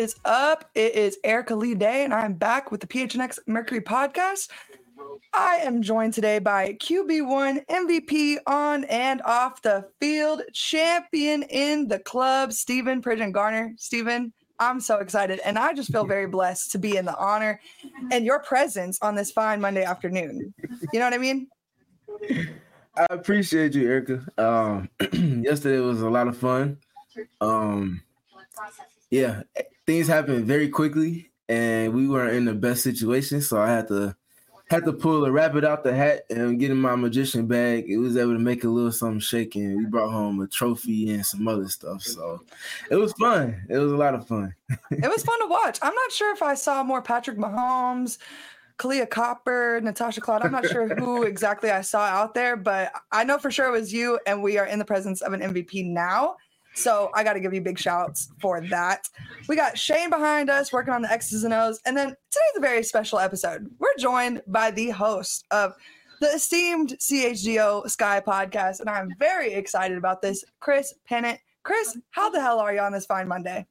is up? It is Erica Lee Day, and I'm back with the PHNX Mercury podcast. I am joined today by QB1 MVP on and off the field, champion in the club, Stephen Pridgeon Garner. Stephen, I'm so excited, and I just feel very blessed to be in the honor and your presence on this fine Monday afternoon. You know what I mean? I appreciate you, Erica. Yesterday was a lot of fun. Things happened very quickly, and we weren't in the best situation, so I had to pull a rabbit out the hat and get in my magician bag. It was able to make a little something shaking. We brought home a trophy and some other stuff, so it was fun. It was a lot of fun. It was fun to watch. I'm not sure if I saw more Patrick Mahomes, Kalia Copper, Natasha Cloud. I'm not sure who exactly I saw out there, but I know for sure it was you, and we are in the presence of an MVP now. So I got to give you big shouts for that. We got Shane behind us working on the X's and O's. And then today's a very special episode. We're joined by the host of the esteemed CHGO Sky podcast. And I'm very excited about this, Chris Pennant. Chris, how the hell are you on this fine Monday?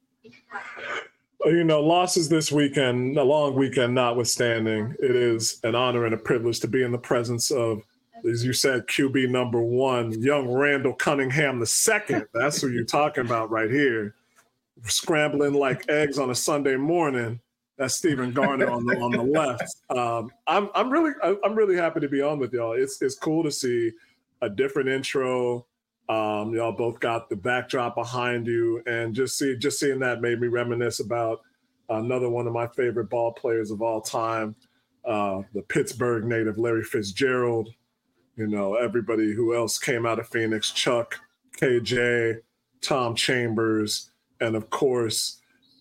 You know, losses this weekend, a long weekend notwithstanding, it is an honor and a privilege to be in the presence of, as you said, QB number one, young Randall Cunningham II. That's who you're talking about right here. Scrambling like eggs on a Sunday morning. That's Stephen Garner on the left. I'm really happy to be on with y'all. It's cool to see a different intro. Y'all both got the backdrop behind you, and just seeing that made me reminisce about another one of my favorite ball players of all time, the Pittsburgh native Larry Fitzgerald. You know, everybody who else came out of Phoenix, Chuck, KJ, Tom Chambers, and of course,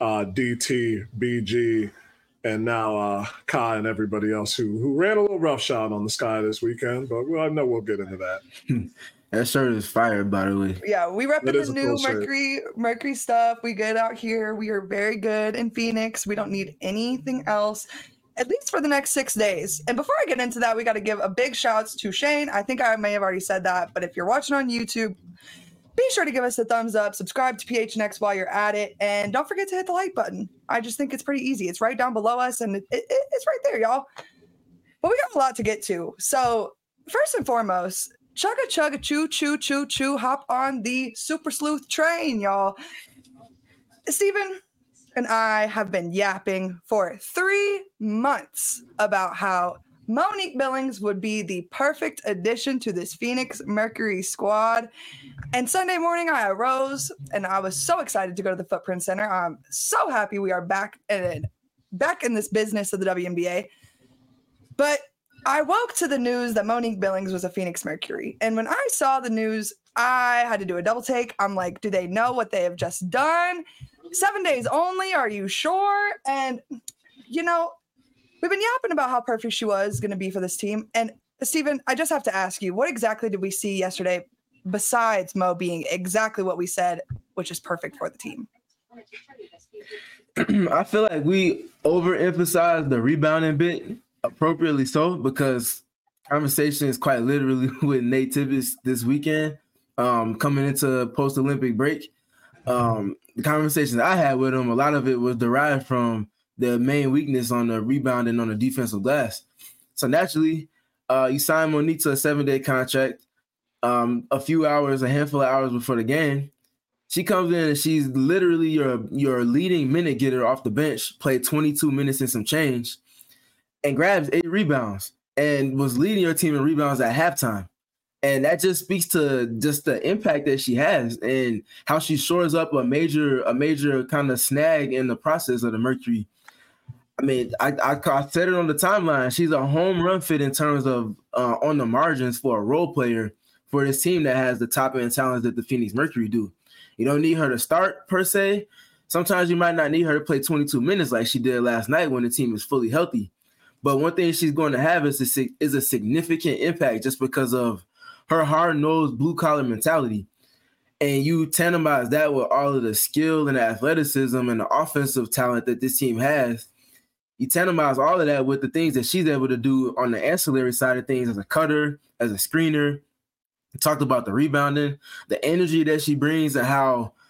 DT, BG, and now Kai and everybody else who ran a little roughshod on the Sky this weekend. But I know we'll get into that. That shirt is fire, by the way. Yeah, we rep the new Mercury stuff. We good out here. We are very good in Phoenix. We don't need anything else, at least for the next 6 days. And before I get into that, we got to give a big shout to Shane. I think I may have already said that, but if you're watching on YouTube, be sure to give us a thumbs up, subscribe to PHNX while you're at it, and don't forget to hit the like button. I just think it's pretty easy. It's right down below us, and it's right there, y'all. But we got a lot to get to. So first and foremost, chugga chugga choo choo choo choo, hop on the Super Sleuth train, y'all. Stephen and I have been yapping for 3 months about how Monique Billings would be the perfect addition to this Phoenix Mercury squad. And Sunday morning I arose and I was so excited to go to the Footprint Center. I'm so happy we are back in this business of the WNBA. But I woke to the news that Monique Billings was a Phoenix Mercury. And when I saw the news, I had to do a double take. I'm like, do they know what they have just done? 7 days only, are you sure? And, you know, we've been yapping about how perfect she was going to be for this team. And, Stephen, I just have to ask you, what exactly did we see yesterday besides Mo being exactly what we said, which is perfect for the team? I feel like we overemphasized the rebounding bit, appropriately so, because conversation is quite literally with Nate Tibbetts this weekend, coming into post-Olympic break. The conversations I had with him, a lot of it was derived from the main weakness on the rebounding on the defensive glass. So naturally, you sign Monique to a 7-day contract. A handful of hours before the game, she comes in and she's literally your leading minute getter off the bench, played 22 minutes and some change, and grabs 8 rebounds and was leading your team in rebounds at halftime. And that just speaks to just the impact that she has and how she shores up a major kind of snag in the process of the Mercury. I mean, I said it on the timeline. She's a home run fit in terms of on the margins for a role player for this team that has the top end talents that the Phoenix Mercury do. You don't need her to start per se. Sometimes you might not need her to play 22 minutes like she did last night when the team is fully healthy. But one thing she's going to have is a significant impact just because of her hard-nosed blue-collar mentality. And you tandemize that with all of the skill and the athleticism and the offensive talent that this team has. You tandemize all of that with the things that she's able to do on the ancillary side of things as a cutter, as a screener. We talked about the rebounding, the energy that she brings, and how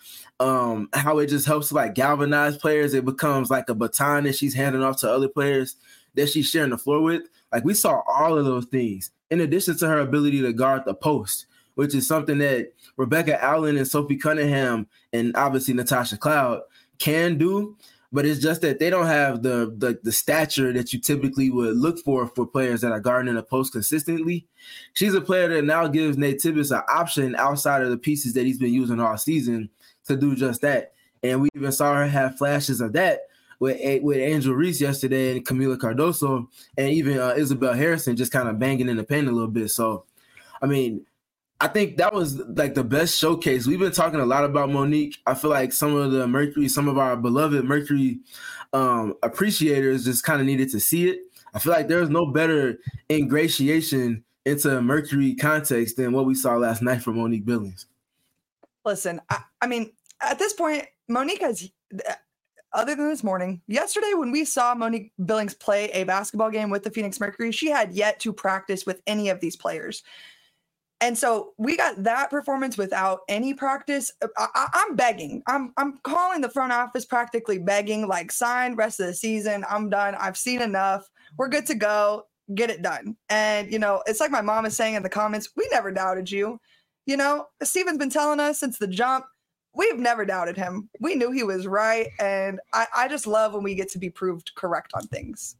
how it just helps like galvanize players. It becomes like a baton that she's handing off to other players that she's sharing the floor with. Like we saw all of those things in addition to her ability to guard the post, which is something that Rebecca Allen and Sophie Cunningham and obviously Natasha Cloud can do. But it's just that they don't have the stature that you typically would look for players that are guarding the post consistently. She's a player that now gives Nate Tibbetts an option outside of the pieces that he's been using all season to do just that. And we even saw her have flashes of that with Angel Reese yesterday and Camila Cardoso and even Isabel Harrison just kind of banging in the paint a little bit. So, I mean, I think that was like the best showcase. We've been talking a lot about Monique. I feel like some of our beloved Mercury appreciators just kind of needed to see it. I feel like there's no better ingratiation into Mercury context than what we saw last night from Monique Billings. Listen, I mean, at this point, Monique has, other than this morning, yesterday when we saw Monique Billings play a basketball game with the Phoenix Mercury, she had yet to practice with any of these players. And so we got that performance without any practice. I'm begging. I'm calling the front office practically begging, like, sign rest of the season. I'm done. I've seen enough. We're good to go. Get it done. And, you know, it's like my mom is saying in the comments, we never doubted you. You know, Steven's been telling us since the jump, we've never doubted him. We knew he was right. And I just love when we get to be proved correct on things.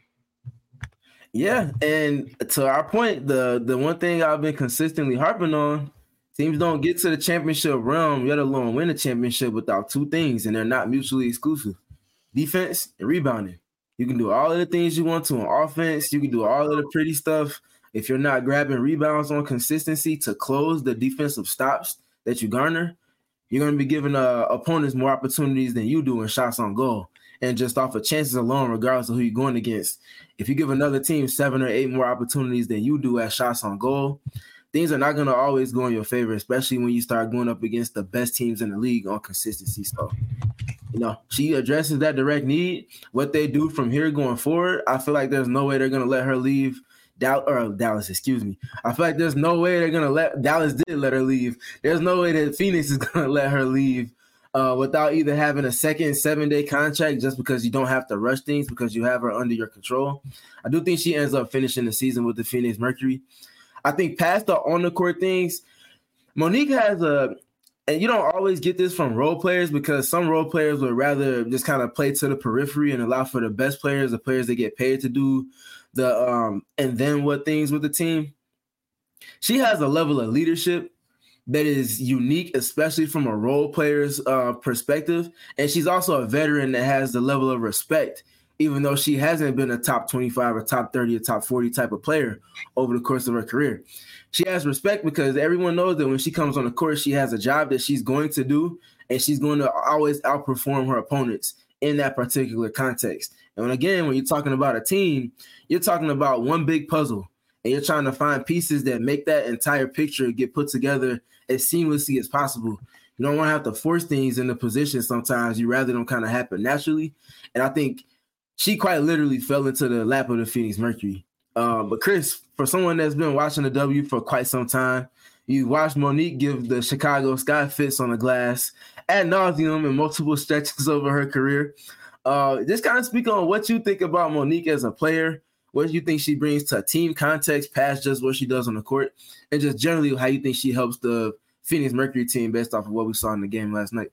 Yeah, and to our point, the one thing I've been consistently harping on, teams don't get to the championship realm, let alone win a championship, without two things, and they're not mutually exclusive: defense and rebounding. You can do all of the things you want to on offense. You can do all of the pretty stuff. If you're not grabbing rebounds on consistency to close the defensive stops that you garner, you're going to be giving opponents more opportunities than you do in shots on goal. And just off of chances alone, regardless of who you're going against, if you give another team 7 or 8 more opportunities than you do at shots on goal, things are not going to always go in your favor, especially when you start going up against the best teams in the league on consistency. So, you know, she addresses that direct need. What they do from here going forward, I feel like there's no way they're going to let her leave Dallas, excuse me. I feel like there's no way they're going to let – Dallas did let her leave. There's no way that Phoenix is going to let her leave without either having a second 7-day contract just because you don't have to rush things because you have her under your control. I do think she ends up finishing the season with the Phoenix Mercury. I think past the on-the-court things, Monique has and you don't always get this from role players because some role players would rather just kind of play to the periphery and allow for the best players, the players that get paid to do the and then what things with the team. She has a level of leadership that is unique, especially from a role player's perspective. And she's also a veteran that has the level of respect, even though she hasn't been a top 25 or top 30 or top 40 type of player over the course of her career. She has respect because everyone knows that when she comes on the court, she has a job that she's going to do, and she's going to always outperform her opponents in that particular context. And again, when you're talking about a team, you're talking about one big puzzle, and you're trying to find pieces that make that entire picture get put together as seamlessly as possible. You don't want to have to force things into position sometimes. You rather them kind of happen naturally. And I think she quite literally fell into the lap of the Phoenix Mercury. But Chris, for someone that's been watching the W for quite some time, you watched Monique give the Chicago Sky fits on the glass ad nauseum in multiple stretches over her career. Just kind of speak on what you think about Monique as a player. What do you think she brings to a team context past just what she does on the court? And just generally how you think she helps the Phoenix Mercury team based off of what we saw in the game last night.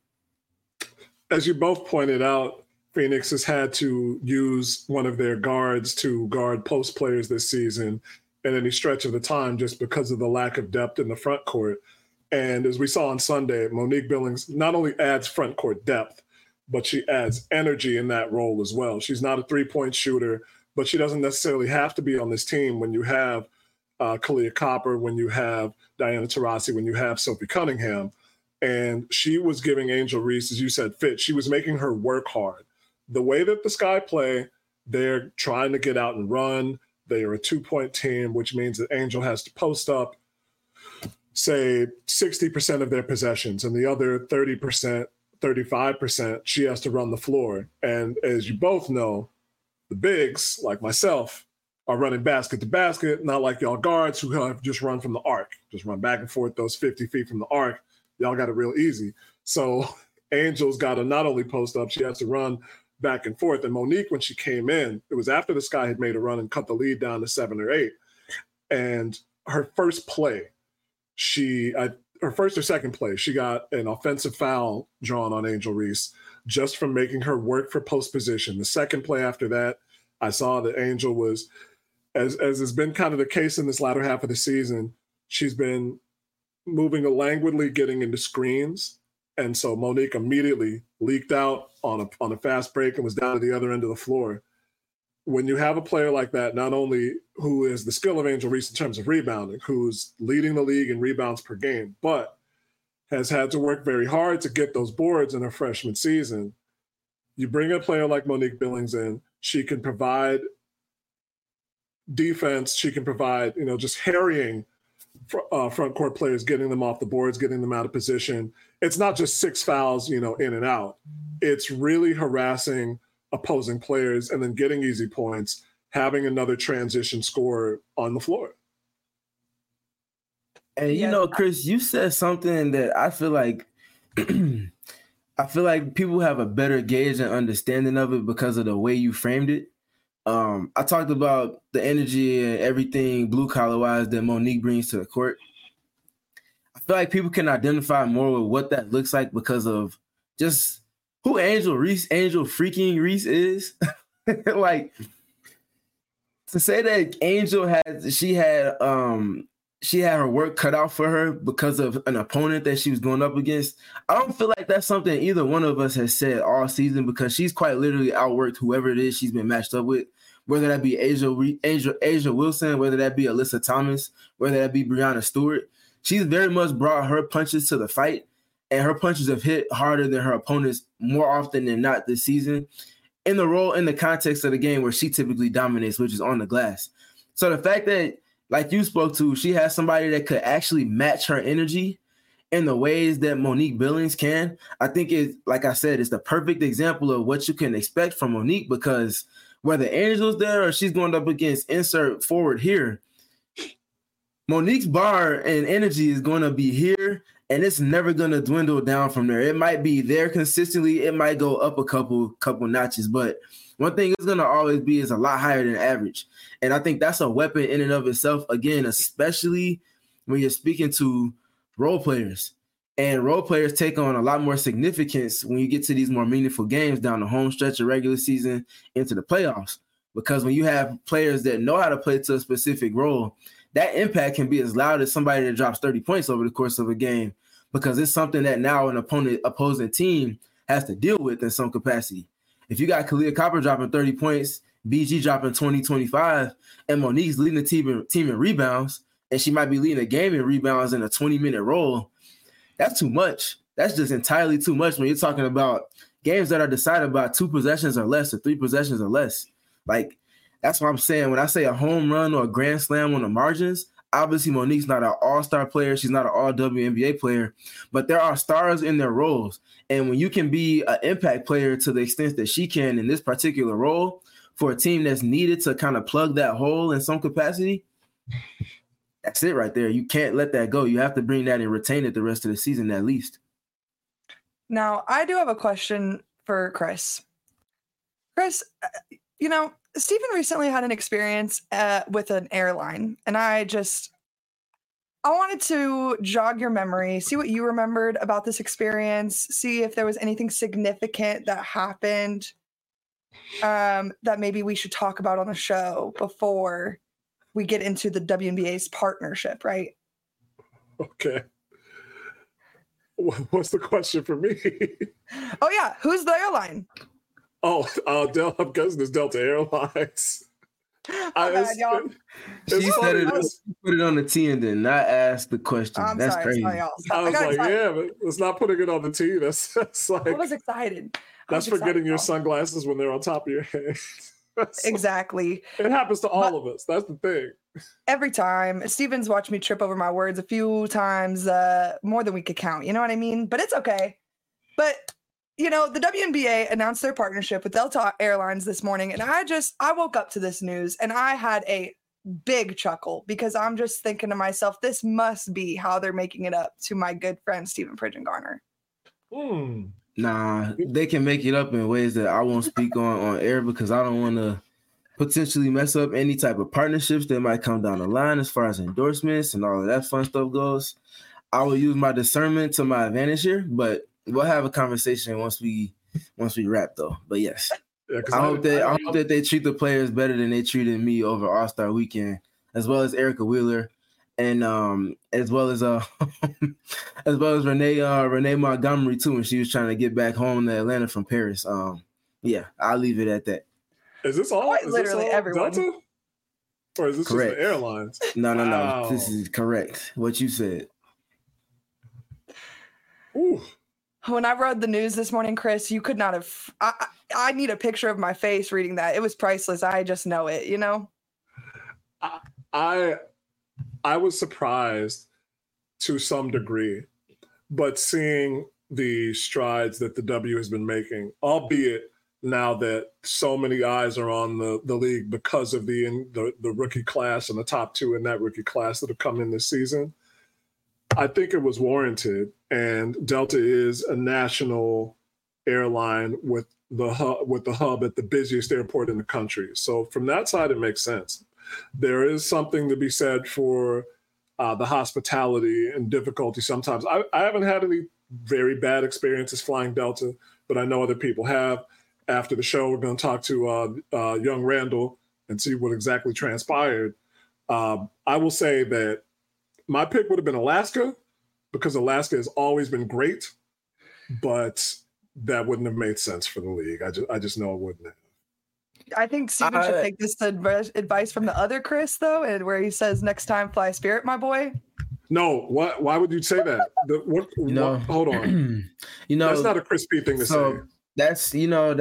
As you both pointed out, Phoenix has had to use one of their guards to guard post players this season in any stretch of the time just because of the lack of depth in the front court. And as we saw on Sunday, Monique Billings not only adds front court depth, but she adds energy in that role as well. She's not a three-point shooter, but she doesn't necessarily have to be on this team when you have Kalia Copper, when you have Diana Taurasi, when you have Sophie Cunningham. And she was giving Angel Reese, as you said, fit. She was making her work hard. The way that the Sky play, they're trying to get out and run. They are a 2-point team, which means that Angel has to post up, say, 60% of their possessions, and the other 30%, 35%, she has to run the floor. And as you both know, the bigs, like myself, are running basket to basket, not like y'all guards who have just run from the arc, just run back and forth those 50 feet from the arc. Y'all got it real easy. So Angel's got to not only post up, she has to run back and forth. And Monique, when she came in, it was after the Sky had made a run and cut the lead down to 7 or 8. And her first play, her first or second play, she got an offensive foul drawn on Angel Reese just from making her work for post position. The second play after that, I saw that Angel was, as has been kind of the case in this latter half of the season, she's been moving languidly, getting into screens. And so Monique immediately leaked out on a fast break and was down to the other end of the floor. When you have a player like that, not only who is the skill of Angel Reese in terms of rebounding, who's leading the league in rebounds per game, but has had to work very hard to get those boards in her freshman season, you bring a player like Monique Billings in, she can provide defense, she can provide, just harrying front court players, getting them off the boards, getting them out of position. It's not just 6 fouls, in and out. It's really harassing opposing players and then getting easy points, having another transition scorer on the floor. And Chris, you said something that I feel like people have a better gauge and understanding of it because of the way you framed it. I talked about the energy and everything blue collar wise that Monique brings to the court. I feel like people can identify more with what that looks like because of just who Angel freaking Reese is. Like, to say that Angel she had her work cut out for her because of an opponent that she was going up against. I don't feel like that's something either one of us has said all season, because she's quite literally outworked whoever it is she's been matched up with, whether that be Asia Wilson, whether that be Alyssa Thomas, whether that be Brianna Stewart. She's very much brought her punches to the fight, and her punches have hit harder than her opponents more often than not this season in the context of the game where she typically dominates, which is on the glass. So the fact that, like you spoke to, she has somebody that could actually match her energy in the ways that Monique Billings can, I think like I said, it's the perfect example of what you can expect from Monique, because whether Angel's there or she's going up against insert forward here, Monique's bar and energy is going to be here, and it's never going to dwindle down from there. It might be there consistently. It might go up a couple notches, but one thing it's going to always be is a lot higher than average. And I think that's a weapon in and of itself, again, especially when you're speaking to role players. And role players take on a lot more significance when you get to these more meaningful games down the home stretch of regular season into the playoffs. Because when you have players that know how to play to a specific role, that impact can be as loud as somebody that drops 30 points over the course of a game, because it's something that now an opposing team has to deal with in some capacity. If you got Kahleah Copper dropping 30 points, BG dropping 20, 25, and Monique's leading the team in rebounds, and she might be leading the game in rebounds in a 20-minute role, that's too much. That's just entirely too much when you're talking about games that are decided by 2 possessions or less or 3 possessions or less. Like, that's what I'm saying. When I say a home run or a grand slam on the margins, obviously Monique's not an all-star player. She's not an all-WNBA player, but there are stars in their roles. And when you can be an impact player to the extent that she can in this particular role for a team that's needed to kind of plug that hole in some capacity, that's it right there. You can't let that go. You have to bring that and retain it the rest of the season at least. Now, I do have a question for Chris. Chris, Stephen recently had an experience with an airline, and I wanted to jog your memory, see what you remembered about this experience, see if there was anything significant that happened that maybe we should talk about on the show before we get into the WNBA's partnership, right? Okay. What's the question for me? Oh, yeah. Who's the airline? Oh, I'm guessing it's Delta Airlines. She said it. Put it on the T and then not ask the question. That's crazy. Sorry, I was like, yeah, but it's not putting it on the T. That's like. I was excited. That's forgetting your sunglasses when they're on top of your head. Exactly. It happens to all of us. That's the thing. Every time. Steven's watched me trip over my words a few times, more than we could count. You know what I mean? But it's okay. But the WNBA announced their partnership with Delta Airlines this morning, and I woke up to this news and I had a big chuckle, because I'm just thinking to myself, this must be how they're making it up to my good friend Stephen Pridgeon Garner. Nah, they can make it up in ways that I won't speak on air because I don't want to potentially mess up any type of partnerships that might come down the line as far as endorsements and all of that fun stuff goes. I will use my discernment to my advantage here, but we'll have a conversation once we wrap though. But yes, I hope that they treat the players better than they treated me over All-Star Weekend, as well as Erica Wheeler, and as well as Renee Montgomery too, when she was trying to get back home to Atlanta from Paris. Yeah, I'll leave it at that. Is this all? Is literally this all everyone? Delta? Or is this Correct. just the airlines? No. This is correct. What you said. Ooh. When I read the news this morning, Chris, you could not have. I need a picture of my face reading that. It was priceless. I just know it. You know. I was surprised to some degree, but seeing the strides that the W has been making, albeit now that so many eyes are on the league because of the rookie class and the top two in that rookie class that have come in this season, I think it was warranted. And Delta is a national airline with the hub at the busiest airport in the country. So from that side, it makes sense. There is something to be said for the hospitality and difficulty sometimes. I haven't had any very bad experiences flying Delta, but I know other people have. After the show, we're going to talk to young Randall and see what exactly transpired. I will say that my pick would have been Alaska because Alaska has always been great, but that wouldn't have made sense for the league. I just know it wouldn't have. I think Steven should take this advice from the other Chris, though, and where he says, next time, fly Spirit, my boy. No, why would you say that? Hold on. That's not a Chris P thing to say. That's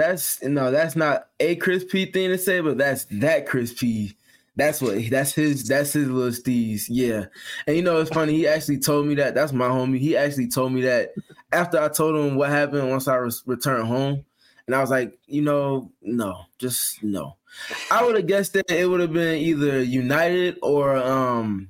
not a Chris P thing to say, but that's that Chris P. That's his little steez. Yeah. And it's funny, he actually told me that. That's my homie. He actually told me that after I told him what happened once I returned home. And I was like, no, just no. I would have guessed that it would have been either United or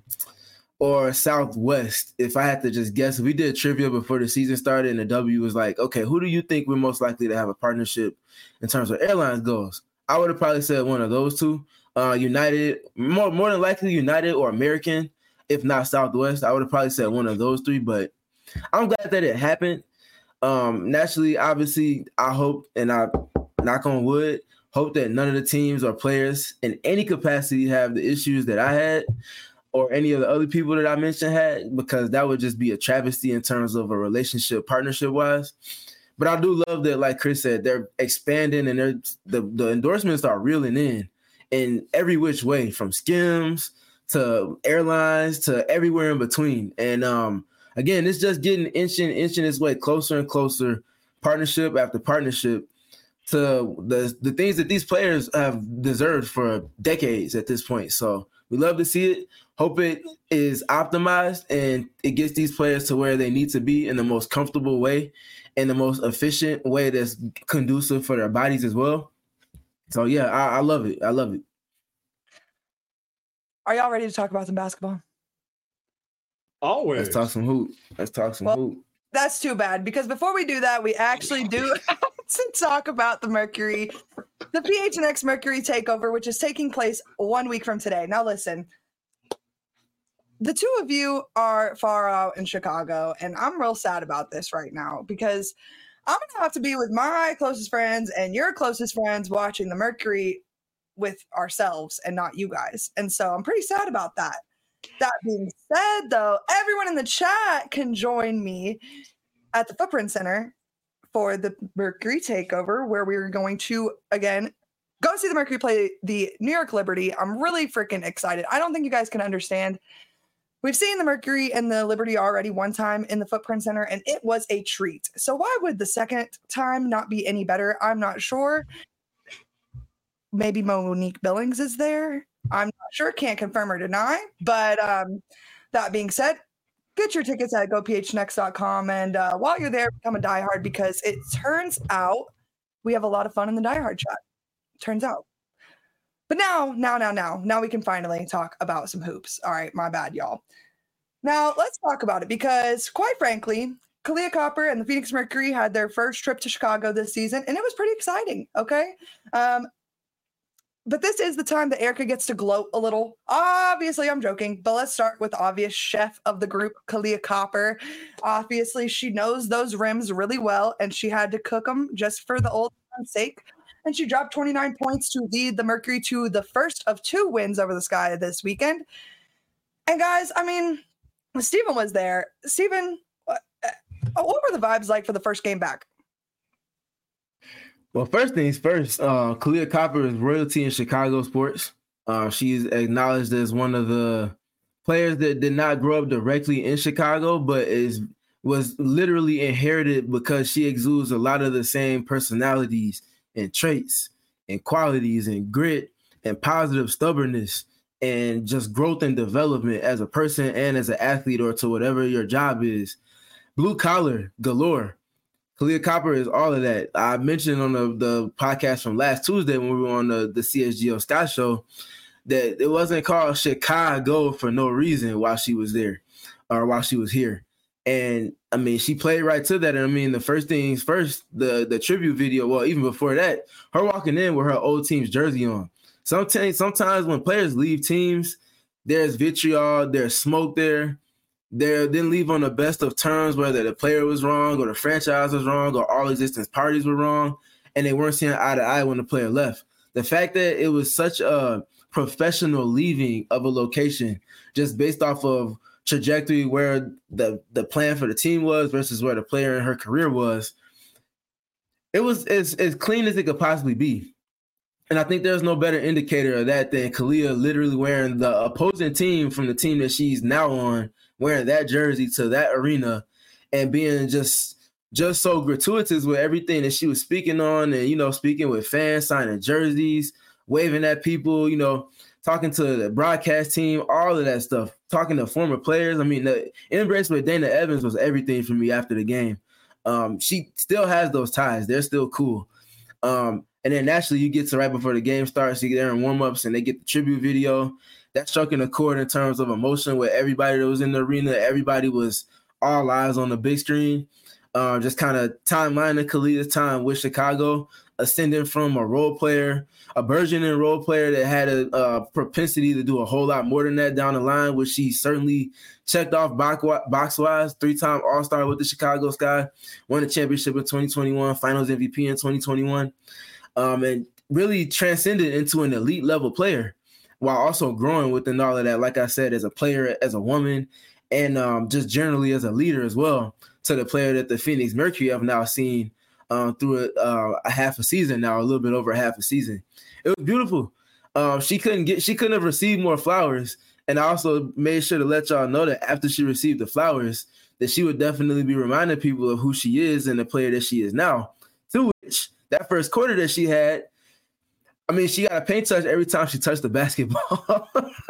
Southwest if I had to just guess. We did trivia before the season started, and the W was like, okay, who do you think we're most likely to have a partnership in terms of airlines goes? I would have probably said one of those two. United, more than likely United or American, if not Southwest. I would have probably said one of those three, but I'm glad that it happened. Naturally, obviously, I hope, and I knock on wood, hope that none of the teams or players in any capacity have the issues that I had or any of the other people that I mentioned had, because that would just be a travesty in terms of a relationship, partnership-wise. But I do love that, like Chris said, they're expanding and the endorsements are reeling in every which way, from Skims to airlines to everywhere in between. And again, it's just getting inching its way closer and closer, partnership after partnership, to the things that these players have deserved for decades at this point. So we love to see it. Hope it is optimized and it gets these players to where they need to be in the most comfortable way and the most efficient way that's conducive for their bodies as well. So yeah, I love it. I love it. Are y'all ready to talk about some basketball? Always. Let's talk some hoop. Hoop. That's too bad, because before we do that, we actually do to talk about the Mercury, the PHNX Mercury takeover, which is taking place 1 week from today. Now listen, the two of you are far out in Chicago, and I'm real sad about this right now, because I'm going to have to be with my closest friends and your closest friends watching the Mercury with ourselves and not you guys. And so I'm pretty sad about that. That being said, though, everyone in the chat can join me at the Footprint Center for the Mercury takeover, where we're going to, again, go see the Mercury play the New York Liberty. I'm really freaking excited. I don't think you guys can understand. We've seen the Mercury and the Liberty already one time in the Footprint Center, and it was a treat. So why would the second time not be any better? I'm not sure. Maybe Monique Billings is there. I'm not sure. Can't confirm or deny. But that being said, get your tickets at gophnx.com. And while you're there, become a diehard, because it turns out we have a lot of fun in the diehard chat. Turns out. But now we can finally talk about some hoops. All right, my bad, y'all. Now let's talk about it, because quite frankly, Kahleah Copper and the Phoenix Mercury had their first trip to Chicago this season, and it was pretty exciting, okay? But this is the time that Erica gets to gloat a little. Obviously, I'm joking, but let's start with obvious chef of the group, Kahleah Copper. Obviously, she knows those rims really well, and she had to cook them just for the old time's sake. And she dropped 29 points to lead the Mercury to the first of 2 wins over the Sky this weekend. And guys, I mean, Steven was there. Steven, what were the vibes like for the first game back? Well, first things first, Kahleah Copper is royalty in Chicago sports. She's acknowledged as one of the players that did not grow up directly in Chicago, but was literally inherited because she exudes a lot of the same personalities and traits and qualities and grit and positive stubbornness and just growth and development as a person and as an athlete or to whatever your job is. Blue collar galore. Kahleah Copper is all of that. I mentioned on the podcast from last Tuesday when we were on the CSGO Sky Show that it wasn't called Chicago for no reason while she was there or while she was here. And I mean, she played right to that. And I mean, the first things first, the tribute video, well, even before that, her walking in with her old team's jersey on. Sometimes when players leave teams, there's vitriol, there's smoke there. They didn't leave on the best of terms, whether the player was wrong or the franchise was wrong or all existence parties were wrong, and they weren't seeing eye to eye when the player left. The fact that it was such a professional leaving of a location just based off of trajectory where the plan for the team was versus where the player in her career was, it was as clean as it could possibly be. And I think there's no better indicator of that than Kahleah literally wearing the opposing team from the team that she's now on, wearing that jersey to that arena and being just so gratuitous with everything that she was speaking on and, you know, speaking with fans, signing jerseys, waving at people, you know, talking to the broadcast team, all of that stuff, talking to former players. I mean, the embrace with Dana Evans was everything for me after the game. She still has those ties. They're still cool. And then naturally you get to right before the game starts, you get there in warm-ups and they get the tribute video. That struck a chord in terms of emotion with everybody that was in the arena. Everybody was all eyes on the big screen. Just kind of timelining Kahleah's time with Chicago, ascending from a role player, a burgeoning role player that had a propensity to do a whole lot more than that down the line, which she certainly checked off box-wise, 3-time All-Star with the Chicago Sky, won the championship in 2021, Finals MVP in 2021, and really transcended into an elite level player while also growing within all of that, like I said, as a player, as a woman, and just generally as a leader as well, to the player that the Phoenix Mercury have now seen through a half a season now, a little bit over a half a season. It was beautiful. She couldn't have received more flowers. And I also made sure to let y'all know that after she received the flowers, that she would definitely be reminding people of who she is and the player that she is now. To which that first quarter that she had, I mean, she got a paint touch every time she touched the basketball.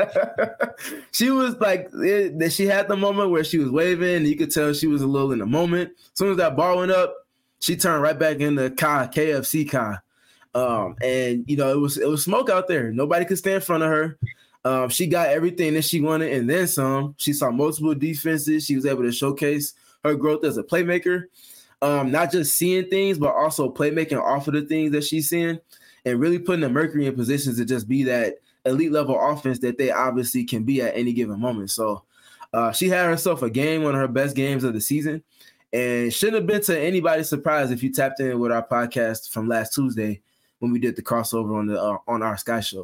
She was like, she had the moment where she was waving, and you could tell she was a little in the moment. As soon as that ball went up, she turned right back into KFC Kai. And, you know, it was smoke out there. Nobody could stand in front of her. She got everything that she wanted and then some. She saw multiple defenses. She was able to showcase her growth as a playmaker, not just seeing things, but also playmaking off of the things that she's seeing, and really putting the Mercury in positions to just be that elite level offense that they obviously can be at any given moment. So she had herself a game, one of her best games of the season, and shouldn't have been to anybody's surprise if you tapped in with our podcast from last Tuesday when we did the crossover on our Sky Show.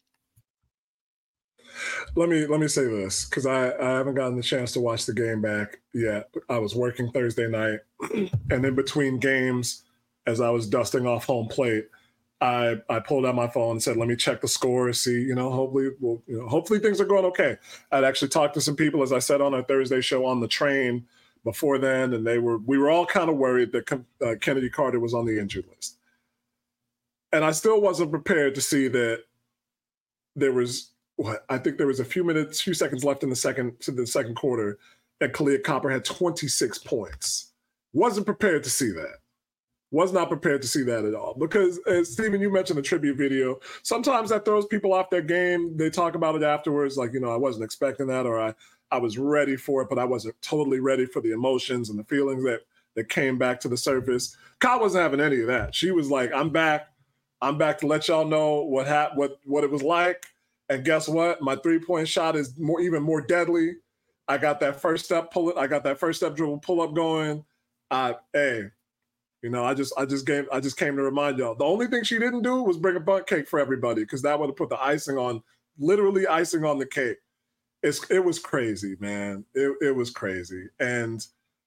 Let me say this, because I haven't gotten the chance to watch the game back yet. I was working Thursday night, and in between games, as I was dusting off home plate, I pulled out my phone and said, let me check the score, see, hopefully things are going okay. I'd actually talked to some people, as I said on our Thursday show, on the train before then, and we were all kind of worried that Kennedy Carter was on the injured list. And I still wasn't prepared to see that there was, I think there was a few seconds left in the second quarter that Kahleah Copper had 26 points. Wasn't prepared to see that. Was not prepared to see that at all. Because, Steven, you mentioned the tribute video. Sometimes that throws people off their game. They talk about it afterwards, like, I wasn't expecting that, or I was ready for it, but I wasn't totally ready for the emotions and the feelings that came back to the surface. Kai wasn't having any of that. She was like, I'm back to let y'all know what it was like. And guess what? My 3-point shot is even more deadly. I got that first step dribble pull up going. I just came to remind y'all. The only thing she didn't do was bring a butt cake for everybody, because that would have put the literally icing on the cake. It was crazy, man. It was crazy. And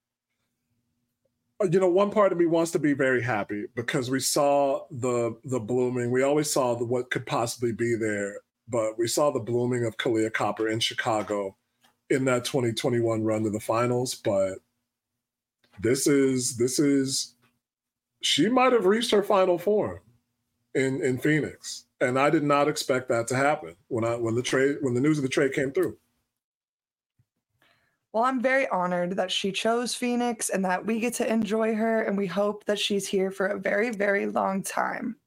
one part of me wants to be very happy because we saw the blooming. We always saw what could possibly be there, but we saw the blooming of Kahleah Copper in Chicago in that 2021 run to the finals. But this is she might have reached her final form in Phoenix, and I did not expect that to happen when the news of the trade came through. Well, I'm very honored that she chose Phoenix and that we get to enjoy her, and we hope that she's here for a very, very long time.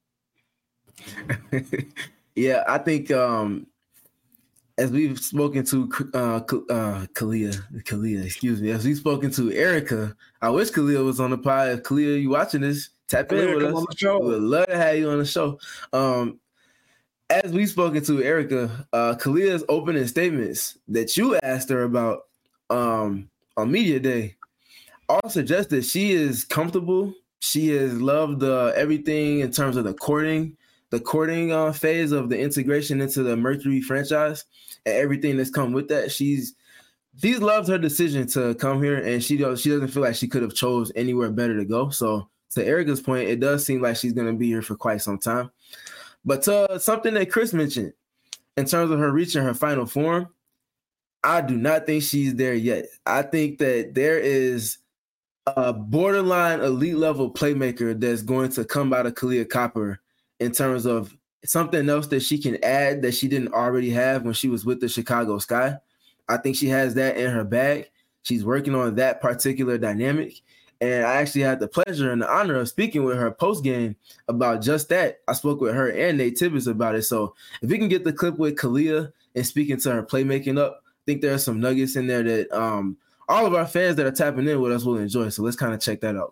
Yeah, I think as we've spoken to Kahleah, excuse me, as we've spoken to Erica, I wish Kahleah was on the pod. If Kahleah, you watching this, tap in with us. On the show. We would love to have you on the show. As we've spoken to Erica, Kahleah's opening statements that you asked her about on Media Day all suggest that she is comfortable. She has loved everything in terms of the courting phase of the integration into the Mercury franchise and everything that's come with that. She's loved her decision to come here, and she doesn't feel like she could have chose anywhere better to go. So to Erica's point, it does seem like she's going to be here for quite some time. But something that Chris mentioned in terms of her reaching her final form, I do not think she's there yet. I think that there is a borderline elite level playmaker that's going to come out of Kahleah Copper in terms of something else that she can add that she didn't already have when she was with the Chicago Sky. I think she has that in her bag. She's working on that particular dynamic. And I actually had the pleasure and the honor of speaking with her post-game about just that. I spoke with her and Nate Tibbetts about it. So if we can get the clip with Kahleah and speaking to her playmaking up, I think there are some nuggets in there that all of our fans that are tapping in with us will enjoy. So let's kind of check that out.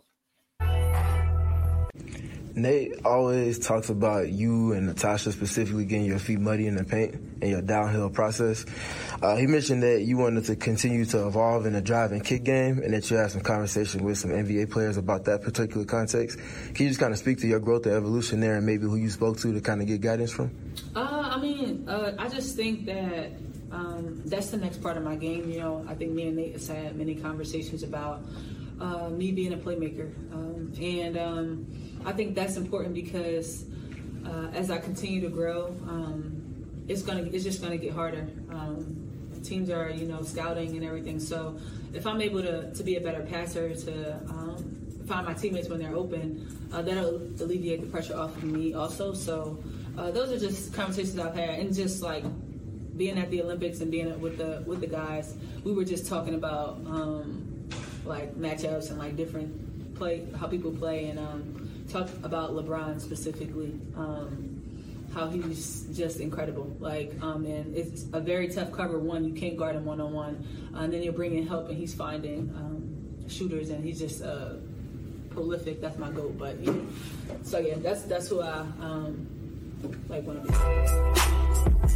Nate always talks about you and Natasha specifically getting your feet muddy in the paint and your downhill process. He mentioned that you wanted to continue to evolve in the drive and kick game and that you had some conversation with some NBA players about that particular context. Can you just kind of speak to your growth and evolution there and maybe who you spoke to kind of get guidance from? I just think that that's the next part of my game. I think me and Nate have had many conversations about me being a playmaker. I think that's important because as I continue to grow, it's just gonna get harder. Teams are, scouting and everything. So if I'm able to be a better passer, to find my teammates when they're open, that'll alleviate the pressure off of me also. So those are just conversations I've had, and just like being at the Olympics and being with the guys, we were just talking about like matchups and like different how people play, and talk about LeBron specifically, how he's just incredible. And it's a very tough cover. One, you can't guard him one-on-one, and then you're bringing help, and he's finding shooters, and he's just prolific. That's my goal. But so yeah, that's who I want to be.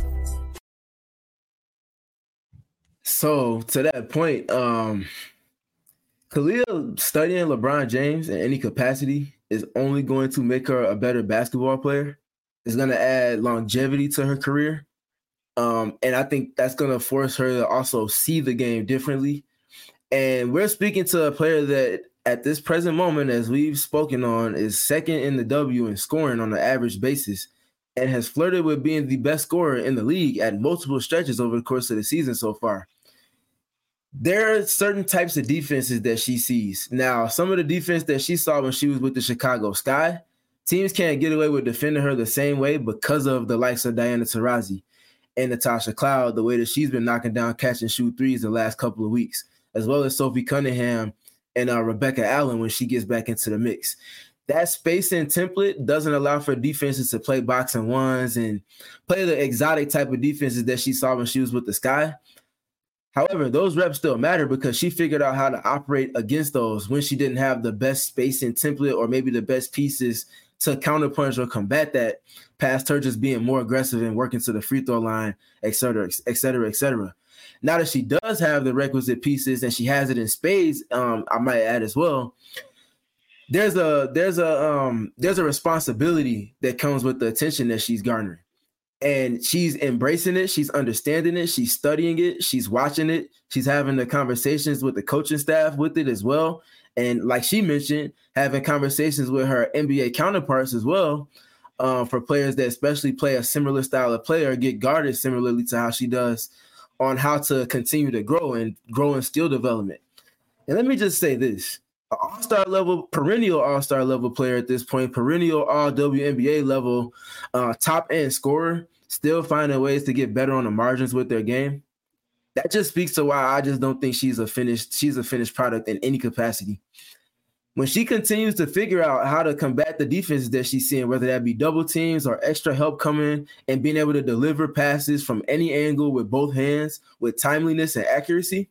So to that point, Kahleah studying LeBron James in any capacity is only going to make her a better basketball player. It's going to add longevity to her career. And I think that's going to force her to also see the game differently. And we're speaking to a player that at this present moment, as we've spoken on, is second in the W in scoring on an average basis and has flirted with being the best scorer in the league at multiple stretches over the course of the season so far. There are certain types of defenses that she sees. Now, some of the defense that she saw when she was with the Chicago Sky, teams can't get away with defending her the same way because of the likes of Diana Taurasi and Natasha Cloud, the way that she's been knocking down catch and shoot threes the last couple of weeks, as well as Sophie Cunningham and Rebecca Allen when she gets back into the mix. that spacing template doesn't allow for defenses to play boxing ones and play the exotic type of defenses that she saw when she was with the Sky. However, those reps still matter because she figured out how to operate against those when she didn't have the best spacing template or maybe the best pieces to counterpunch or combat that, past her just being more aggressive and working to the free throw line, et cetera, et cetera, et cetera. Now that she does have the requisite pieces and she has it in spades, I might add as well, there's a responsibility that comes with the attention that she's garnering. And she's embracing it. She's understanding it. She's studying it. She's watching it. She's having the conversations with the coaching staff with it as well. And like she mentioned, having conversations with her NBA counterparts as well, for players that especially play a similar style of play or get guarded similarly to how she does, on how to continue to grow in skill development. And let me just say this. An all-star level, perennial all-star level player at this point, perennial all-WNBA level top-end scorer, still finding ways to get better on the margins with their game. That just speaks to why I just don't think she's a finished product in any capacity. When she continues to figure out how to combat the defenses that she's seeing, whether that be double teams or extra help coming and being able to deliver passes from any angle with both hands with timeliness and accuracy,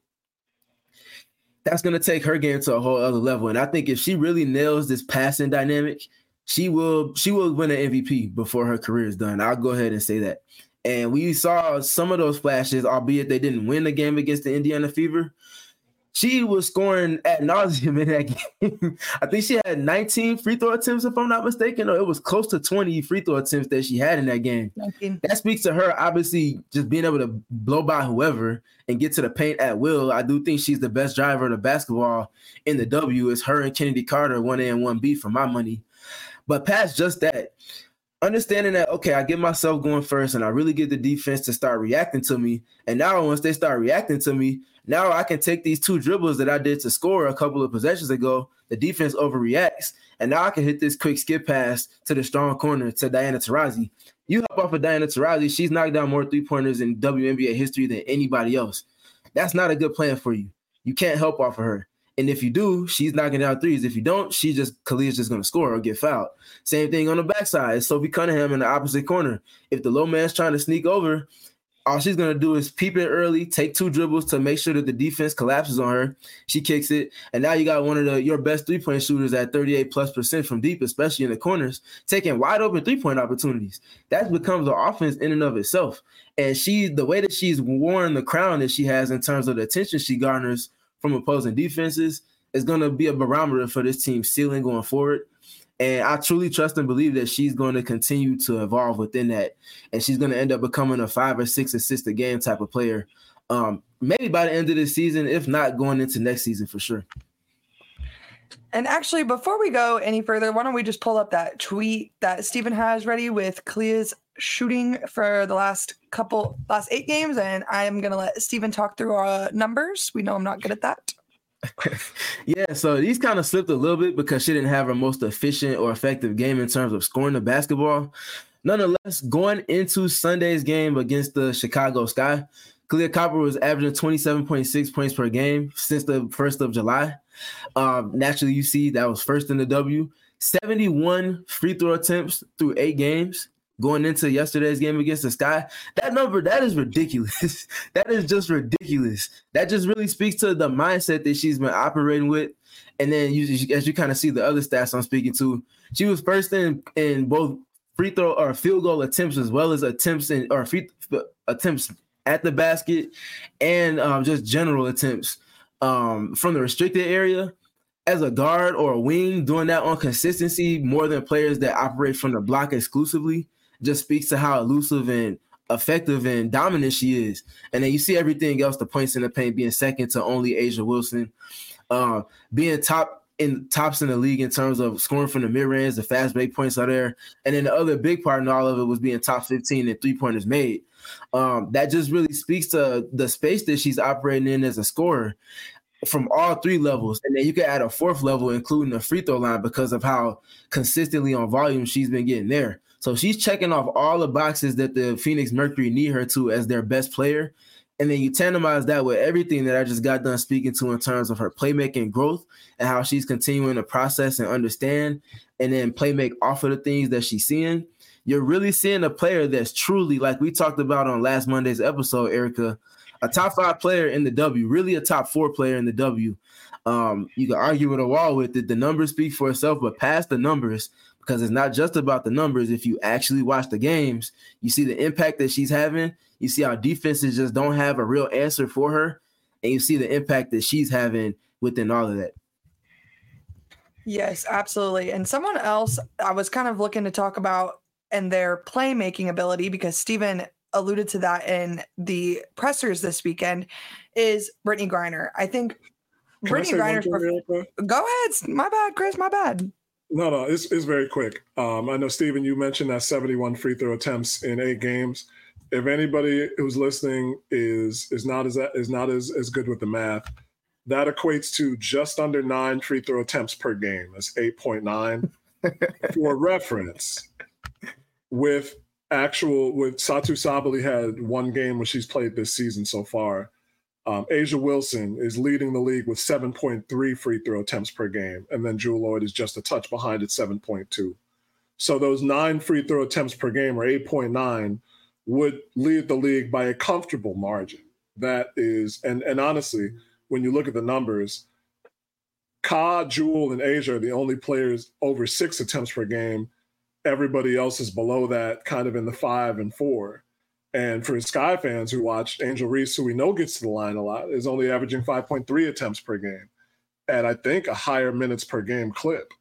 that's going to take her game to a whole other level. And I think if she really nails this passing dynamic, she will win an MVP before her career is done. I'll go ahead and say that. And we saw some of those flashes, albeit they didn't win the game against the Indiana Fever. She was scoring ad nauseum in that game. I think she had 19 free throw attempts, if I'm not mistaken, or it was close to 20 free throw attempts that she had in that game. 19. That speaks to her, obviously, just being able to blow by whoever and get to the paint at will. I do think she's the best driver of the basketball in the W. It's her and Kennedy Carter, 1A and 1B for my money. But past just that, understanding that, okay, I get myself going first and I really get the defense to start reacting to me. And now once they start reacting to me, now I can take these two dribbles that I did to score a couple of possessions ago. The defense overreacts. And now I can hit this quick skip pass to the strong corner to Diana Taurasi. You hop off of Diana Taurasi, she's knocked down more three-pointers in WNBA history than anybody else. That's not a good plan for you. You can't help off of her. And if you do, she's knocking down threes. If you don't, Khalia's just going to score or get fouled. Same thing on the backside. It's Sophie Cunningham in the opposite corner. If the low man's trying to sneak over, all she's going to do is peep it early, take two dribbles to make sure that the defense collapses on her. She kicks it. And now you got one of your best three-point shooters at 38+% from deep, especially in the corners, taking wide open three-point opportunities. That becomes an offense in and of itself. And the way that she's worn the crown that she has in terms of the attention she garners from opposing defenses is going to be a barometer for this team's ceiling going forward. And I truly trust and believe that she's going to continue to evolve within that. And she's going to end up becoming a 5 or 6 assist a game type of player. Maybe by the end of the season, if not going into next season for sure. And actually, before we go any further, why don't we just pull up that tweet that Stephen has ready with Khalia's shooting for the last 8 games. And I am going to let Stephen talk through our numbers. We know I'm not good at that. Yeah, so these kind of slipped a little bit because she didn't have her most efficient or effective game in terms of scoring the basketball. Nonetheless, going into Sunday's game against the Chicago Sky, Kahleah Copper was averaging 27.6 points per game since the 1st of July. Naturally, you see that was first in the W. 71 free throw attempts through 8 games. Going into yesterday's game against the Sky, that number, that is ridiculous. That is just ridiculous. That just really speaks to the mindset that she's been operating with. And then as you kind of see the other stats I'm speaking to, she was first in both free throw or field goal attempts as well as attempts attempts at the basket and just general attempts from the restricted area. As a guard or a wing, doing that on consistency more than players that operate from the block exclusively just speaks to how elusive and effective and dominant she is. And then you see everything else, the points in the paint being second to only A'ja Wilson, being tops in the league in terms of scoring from the mid-range, the fast break points are there. And then the other big part in all of it was being top 15 in three-pointers made. That just really speaks to the space that she's operating in as a scorer from all 3 levels. And then you can add a 4th level, including the free throw line, because of how consistently on volume she's been getting there. So she's checking off all the boxes that the Phoenix Mercury need her to as their best player. And then you tandemize that with everything that I just got done speaking to in terms of her playmaking growth and how she's continuing to process and understand and then playmake off of the things that she's seeing. You're really seeing a player that's truly, like we talked about on last Monday's episode, Erica, a top 5 player in the W, really a top 4 player in the W. You can argue with a wall with it. The numbers speak for itself, but past the numbers, because it's not just about the numbers. If you actually watch the games, you see the impact that she's having. You see how defenses just don't have a real answer for her. And you see the impact that she's having within all of that. Yes, absolutely. And someone else I was kind of looking to talk about and their playmaking ability, because Steven alluded to that in the pressers this weekend, is Brittney Griner. I think Brittney Griner's Go ahead. My bad, Chris. My bad. No, it's very quick. I know, Steven, you mentioned that 71 free throw attempts in 8 games. If anybody who's listening is not as good with the math, that equates to just under 9 free throw attempts per game. That's 8.9. For reference, with Satou Sabally had 1 game where she's played this season so far. A'ja Wilson is leading the league with 7.3 free throw attempts per game, and then Jewell Loyd is just a touch behind at 7.2. So those 9 free throw attempts per game, or 8.9, would lead the league by a comfortable margin. That is, and honestly, when you look at the numbers, Ka, Jewell, and A'ja are the only players over 6 attempts per game. Everybody else is below that, kind of in the 5 and 4. And for Sky fans who watch, Angel Reese, who we know gets to the line a lot, is only averaging 5.3 attempts per game at, I think, a higher minutes per game clip.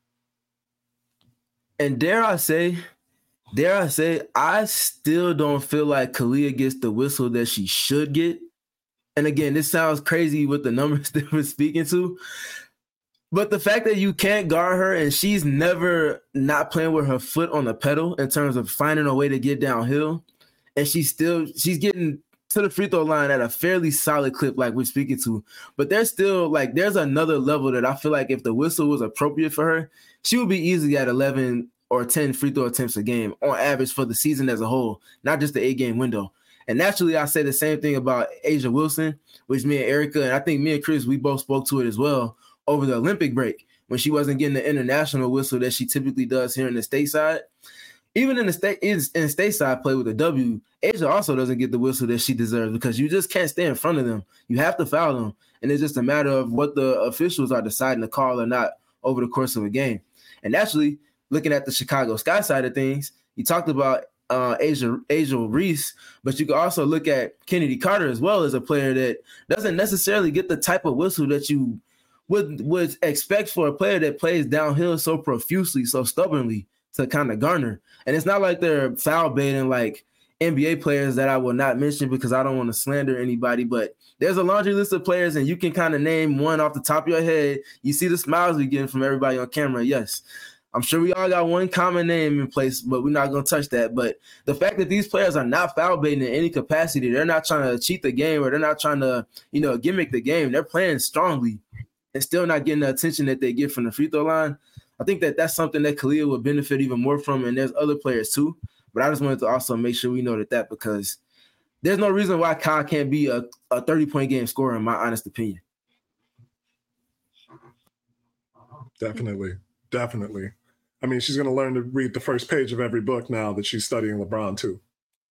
And dare I say, I still don't feel like Kahleah gets the whistle that she should get. And again, this sounds crazy with the numbers that we're speaking to. But the fact that you can't guard her and she's never not playing with her foot on the pedal in terms of finding a way to get downhill, and she's getting to the free throw line at a fairly solid clip like we're speaking to. But there's another level that I feel like if the whistle was appropriate for her, she would be easily at 11 or 10 free throw attempts a game on average for the season as a whole, not just the 8-game window. And naturally, I say the same thing about A'ja Wilson, which me and Erica, and I think me and Chris, we both spoke to it as well over the Olympic break when she wasn't getting the international whistle that she typically does here in the stateside. Even in the stateside play with the W, A'ja also doesn't get the whistle that she deserves because you just can't stay in front of them. You have to foul them. And it's just a matter of what the officials are deciding to call or not over the course of a game. And actually, looking at the Chicago Sky side of things, you talked about A'ja Reese, but you can also look at Kennedy Carter as well as a player that doesn't necessarily get the type of whistle that you would expect for a player that plays downhill so profusely, so stubbornly to kind of garner. And it's not like they're foul baiting like NBA players that I will not mention because I don't want to slander anybody, but there's a laundry list of players and you can kind of name one off the top of your head. You see the smiles we getting from everybody on camera. Yes, I'm sure we all got one common name in place, but we're not going to touch that. But the fact that these players are not foul baiting in any capacity, they're not trying to cheat the game or they're not trying to, gimmick the game. They're playing strongly and still not getting the attention that they get from the free throw line. I think that that's something that Kahleah would benefit even more from, and there's other players too. But I just wanted to also make sure we know that because there's no reason why Kai can't be a 30-point game scorer, in my honest opinion. Definitely. I mean, she's going to learn to read the first page of every book now that she's studying LeBron too.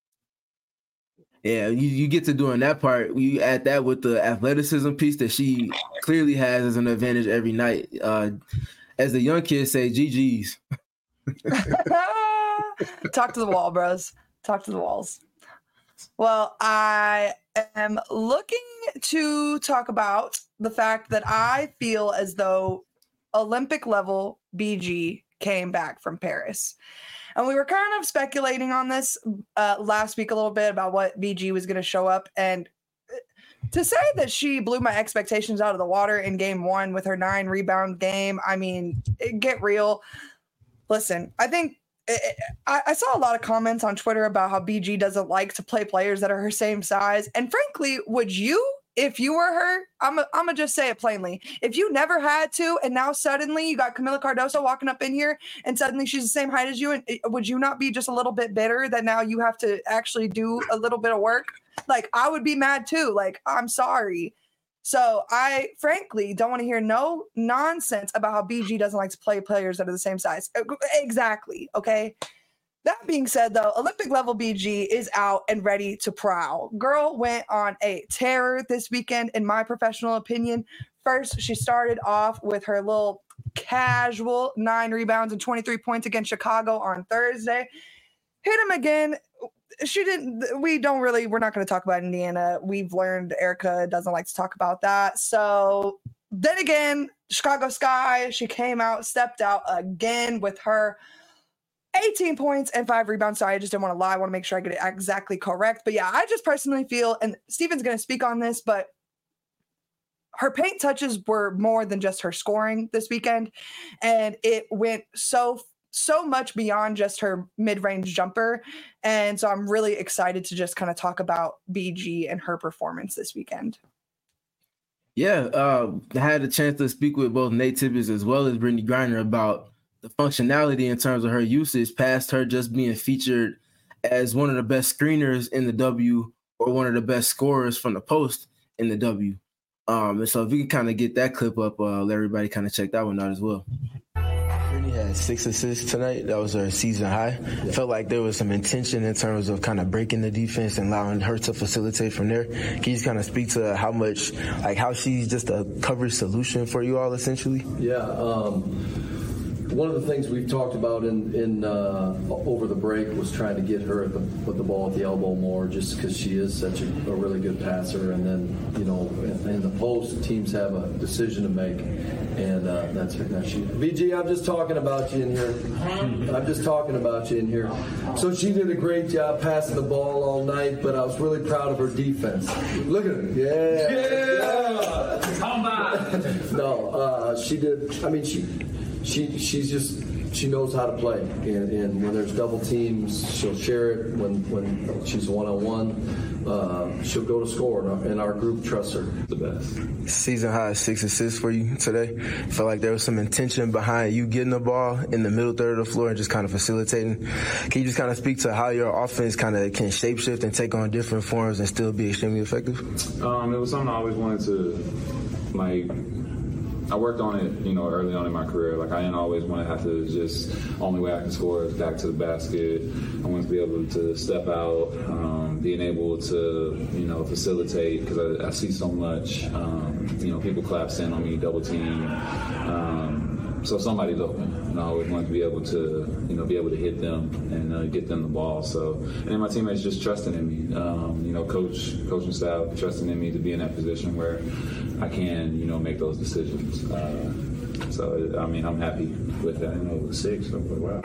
Yeah, you get to doing that part. You add that with the athleticism piece that she clearly has as an advantage every night. As the young kids say, GG's. Talk to the wall, bros. Talk to the walls. Well, I am looking to talk about the fact that I feel as though Olympic level BG came back from Paris. And we were kind of speculating on this last week a little bit about what BG was going to show up. And to say that she blew my expectations out of the water in game 1 with her 9 rebound game, I mean, get real. Listen, I think I saw a lot of comments on Twitter about how BG doesn't like to play players that are her same size. And frankly, would you, if you were her, I'm gonna just say it plainly. If you never had to, and now suddenly you got Camila Cardoso walking up in here, and suddenly she's the same height as you, and would you not be just a little bit bitter that now you have to actually do a little bit of work? Like, I would be mad too. Like, I'm sorry. So I frankly don't want to hear no nonsense about how BG doesn't like to play players that are the same size. Exactly. Okay. That being said, though, Olympic level BG is out and ready to prowl. Girl went on a tear this weekend, in my professional opinion. First, she started off with her little casual 9 rebounds and 23 points against Chicago on Thursday. Hit him again. We're not going to talk about Indiana. We've learned Erica doesn't like to talk about that. So then again, Chicago Sky, she came out, stepped out again with her 18 points and 5 rebounds. Sorry, I just didn't want to lie. I want to make sure I get it exactly correct. But yeah, I just personally feel, and Steven's going to speak on this, but her paint touches were more than just her scoring this weekend. And it went so much beyond just her mid-range jumper. And so I'm really excited to just kind of talk about BG and her performance this weekend. Yeah, I had a chance to speak with both Nate Tibbetts as well as Brittney Griner about the functionality in terms of her usage, past her just being featured as one of the best screeners in the W or one of the best scorers from the post in the W. And so if we can kind of get that clip up, let everybody kind of check that one out as well. Brittney had 6 assists tonight. That was her season high. Yeah. Felt like there was some intention in terms of kind of breaking the defense and allowing her to facilitate from there. Can you just kind of speak to how much, like how she's just a coverage solution for you all essentially? Yeah. One of the things we've talked about in over the break was trying to get her with the ball at the elbow more, just because she is such a really good passer. And then, you know, in the post, teams have a decision to make, and that's she. BG, I'm just talking about you in here. I'm just talking about you in here. So she did a great job passing the ball all night, but I was really proud of her defense. Look at her. Yeah. Come on. No, she did. I mean, she knows how to play, and when there's double teams, she'll share it. When she's one-on-one, she'll go to score, and our group trusts her the best. Season high 6 assists for you today. Felt like there was some intention behind you getting the ball in the middle third of the floor and just kind of facilitating. Can you just kind of speak to how your offense kind of can shapeshift and take on different forms and still be extremely effective? It was something I always wanted to, I worked on it, you know, early on in my career. Like, I didn't always want to have to just, only way I can score is back to the basket. I wanted to be able to step out, being able to, you know, facilitate, because I see so much, you know, people collapse in on me, double team. So somebody's open, and I always wanted to be able to, you know, be able to hit them and get them the ball. So, and then my teammates just trusting in me, you know, coaching staff trusting in me to be in that position where I can, you know, make those decisions. So, I mean, I'm happy with that. I know it was 6, so wow.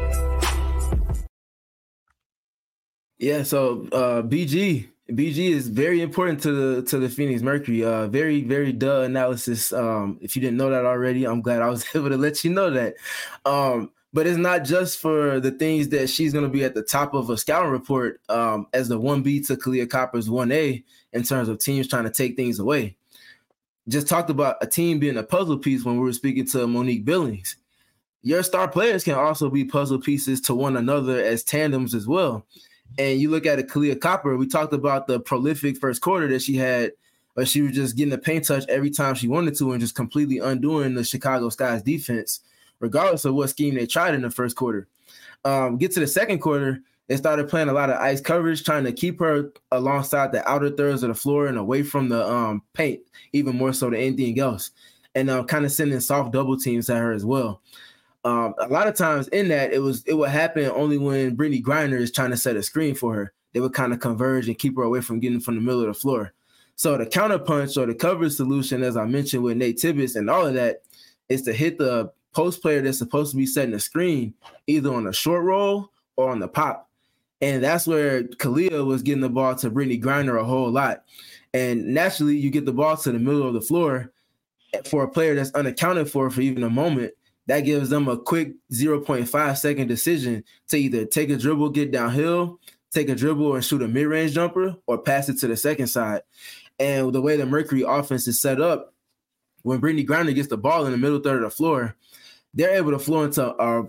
Yeah, so BG is very important to the Phoenix Mercury. Very, very duh analysis. If you didn't know that already, I'm glad I was able to let you know that. But it's not just for the things that she's going to be at the top of a scouting report as the 1B to Kahleah Copper's 1A in terms of teams trying to take things away. Just talked about a team being a puzzle piece when we were speaking to Monique Billings. Your star players can also be puzzle pieces to one another as tandems as well. And you look at a Kahleah Copper, we talked about the prolific first quarter that she had, but she was just getting a paint touch every time she wanted to and just completely undoing the Chicago Sky's defense, regardless of what scheme they tried in the first quarter. Get to the second quarter, they started playing a lot of ice coverage, trying to keep her alongside the outer thirds of the floor and away from the paint, even more so than anything else, and kind of sending soft double teams at her as well. A lot of times in that, it would happen only when Brittney Griner is trying to set a screen for her. They would kind of converge and keep her away from getting from the middle of the floor. So the counterpunch or the coverage solution, as I mentioned with Nate Tibbetts and all of that, is to hit the post player that's supposed to be setting a screen either on a short roll or on the pop. And that's where Kahleah was getting the ball to Brittney Griner a whole lot. And naturally, you get the ball to the middle of the floor for a player that's unaccounted for even a moment. That gives them a quick 0.5 second decision to either take a dribble, get downhill, take a dribble and shoot a mid-range jumper or pass it to the second side. And the way the Mercury offense is set up, when Brittany Griner gets the ball in the middle third of the floor, they're able to flow into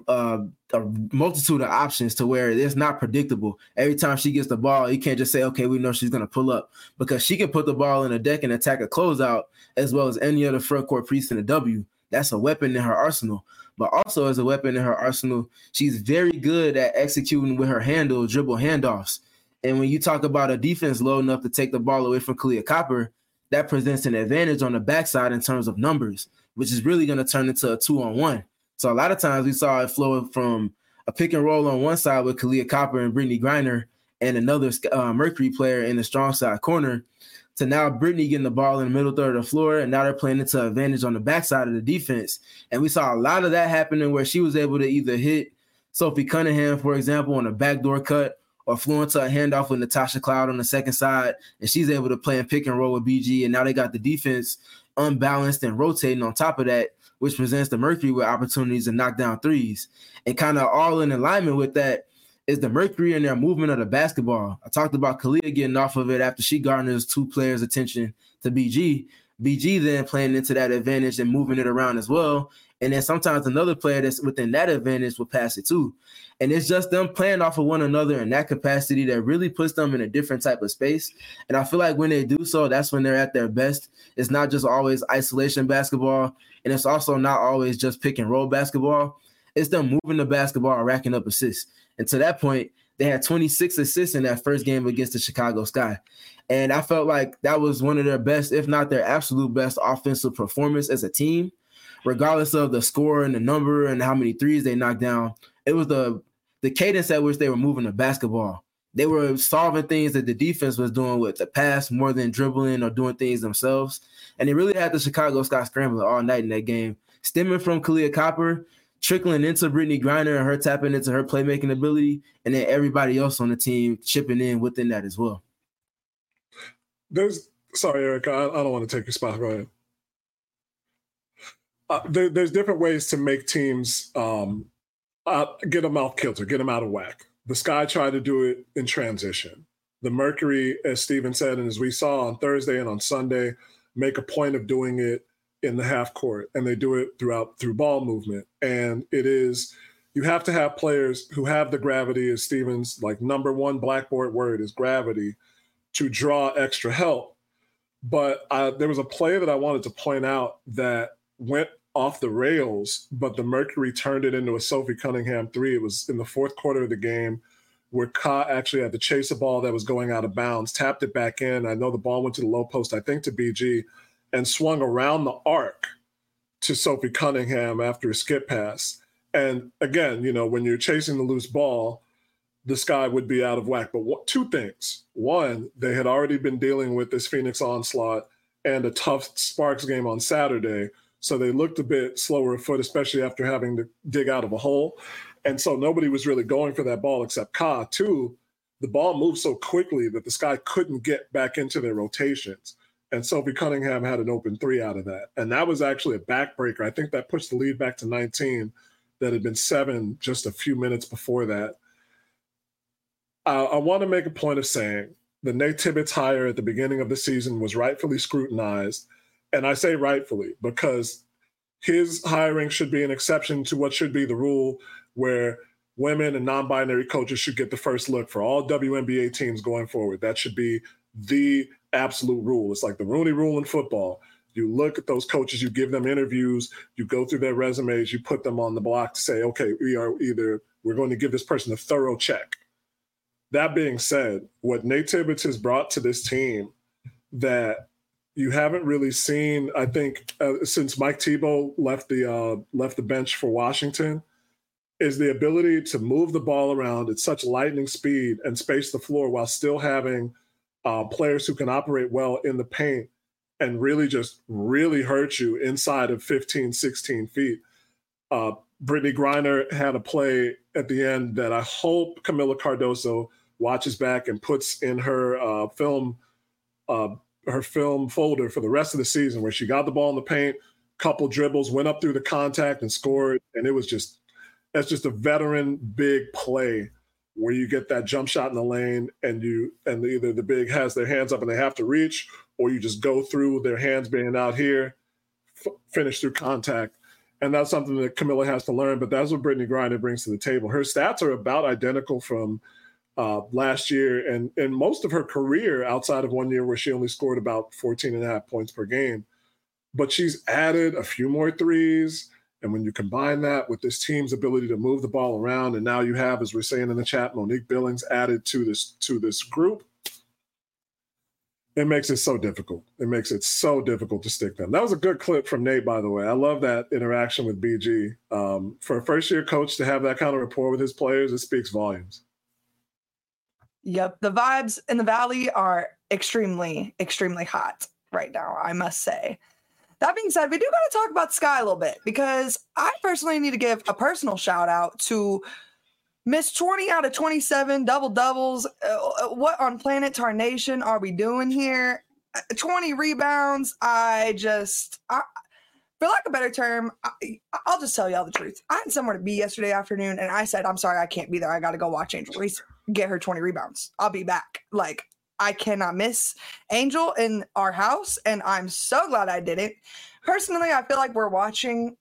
a multitude of options to where it's not predictable. Every time she gets the ball, you can't just say, okay, we know she's going to pull up, because she can put the ball in the deck and attack a closeout as well as any other front court piece in the W. That's a weapon in her arsenal. But also as a weapon in her arsenal, she's very good at executing with her handle dribble handoffs. And when you talk about a defense low enough to take the ball away from Kahleah Copper, that presents an advantage on the backside in terms of numbers, which is really going to turn into a 2-on-1. So a lot of times we saw it flow from a pick and roll on one side with Kahleah Copper and Brittany Griner and another Mercury player in the strong side corner, to now Brittany getting the ball in the middle third of the floor, and now they're playing into advantage on the backside of the defense. And we saw a lot of that happening where she was able to either hit Sophie Cunningham, for example, on a backdoor cut, or flew into a handoff with Natasha Cloud on the second side, and she's able to play in pick and roll with BG, and now they got the defense unbalanced and rotating on top of that, which presents the Mercury with opportunities to knock down threes. And kind of all in alignment with that is the Mercury and their movement of the basketball. I talked about Kahleah getting off of it after she garners two players' attention to BG. BG then playing into that advantage and moving it around as well. And then sometimes another player that's within that advantage will pass it too. And it's just them playing off of one another in that capacity that really puts them in a different type of space. And I feel like when they do so, that's when they're at their best. It's not just always isolation basketball, and it's also not always just pick and roll basketball. It's them moving the basketball and racking up assists. And to that point, they had 26 assists in that first game against the Chicago Sky. And I felt like that was one of their best, if not their absolute best offensive performance as a team, regardless of the score and the number and how many threes they knocked down. It was the cadence at which they were moving the basketball. They were solving things that the defense was doing with the pass more than dribbling or doing things themselves. And they really had the Chicago Sky scrambling all night in that game, stemming from Kahleah Copper, trickling into Brittany Griner and her tapping into her playmaking ability, and then everybody else on the team chipping in within that as well. Sorry, Eric, I don't want to take your spot. Go ahead. There's different ways to make teams get them off kilter, get them out of whack. The Sky tried to do it in transition. The Mercury, as Steven said, and as we saw on Thursday and on Sunday, make a point of doing it in the half court, and they do it through ball movement. And it is, you have to have players who have the gravity, as Steven's like number one blackboard word is gravity, to draw extra help. But there was a play that I wanted to point out that went off the rails, but the Mercury turned it into a Sophie Cunningham three. It was in the fourth quarter of the game where Ka actually had to chase a ball that was going out of bounds, tapped it back in. I know the ball went to the low post, I think to BG, and swung around the arc to Sophie Cunningham after a skip pass. And again, when you're chasing the loose ball, the Sky would be out of whack. But two things. One, they had already been dealing with this Phoenix onslaught and a tough Sparks game on Saturday. So they looked a bit slower of foot, especially after having to dig out of a hole. And so nobody was really going for that ball except Ka. Two, the ball moved so quickly that the Sky couldn't get back into their rotations. And Sophie Cunningham had an open three out of that. And that was actually a backbreaker. I think that pushed the lead back to 19 that had been 7 just a few minutes before that. I want to make a point of saying the Nate Tibbetts hire at the beginning of the season was rightfully scrutinized. And I say rightfully because his hiring should be an exception to what should be the rule, where women and non-binary coaches should get the first look for all WNBA teams going forward. That should be the absolute rule. It's like the Rooney Rule in football. You look at those coaches, you give them interviews, you go through their resumes, you put them on the block to say, okay, we're going to give this person a thorough check. That being said, what Nate Tibbetts has brought to this team that you haven't really seen, I think, since Mike Thibault left the bench for Washington, is the ability to move the ball around at such lightning speed and space the floor while still having players who can operate well in the paint and really hurt you inside of 15, 16 feet. Brittany Griner had a play at the end that I hope Camila Cardoso watches back and puts in her film folder for the rest of the season, where she got the ball in the paint, couple dribbles, went up through the contact and scored. And that's just a veteran big play where you get that jump shot in the lane and either the big has their hands up and they have to reach, or you just go through their hands being out here, finish through contact. And that's something that Kamilla has to learn, but that's what Brittney Griner brings to the table. Her stats are about identical from last year and most of her career, outside of 1 year where she only scored about 14.5 points per game. But she's added a few more threes. And when you combine that with this team's ability to move the ball around, and now you have, as we're saying in the chat, Monique Billings added to this group, it makes it so difficult. It makes it so difficult to stick them. That was a good clip from Nate, by the way. I love that interaction with BG. For a first-year coach to have that kind of rapport with his players, it speaks volumes. Yep. The vibes in the Valley are extremely, extremely hot right now, I must say. That being said, we do got to talk about Sky a little bit, because I personally need to give a personal shout out to Miss 20 out of 27 double-doubles. What on planet Tarnation are we doing here? 20 rebounds. For lack of a better term, I'll just tell y'all the truth. I had somewhere to be yesterday afternoon, and I said, I'm sorry, I can't be there. I got to go watch Angel Reese get her 20 rebounds. I'll be back. Like, I cannot miss Angel in our house, and I'm so glad I did it. Personally, I feel like we're watching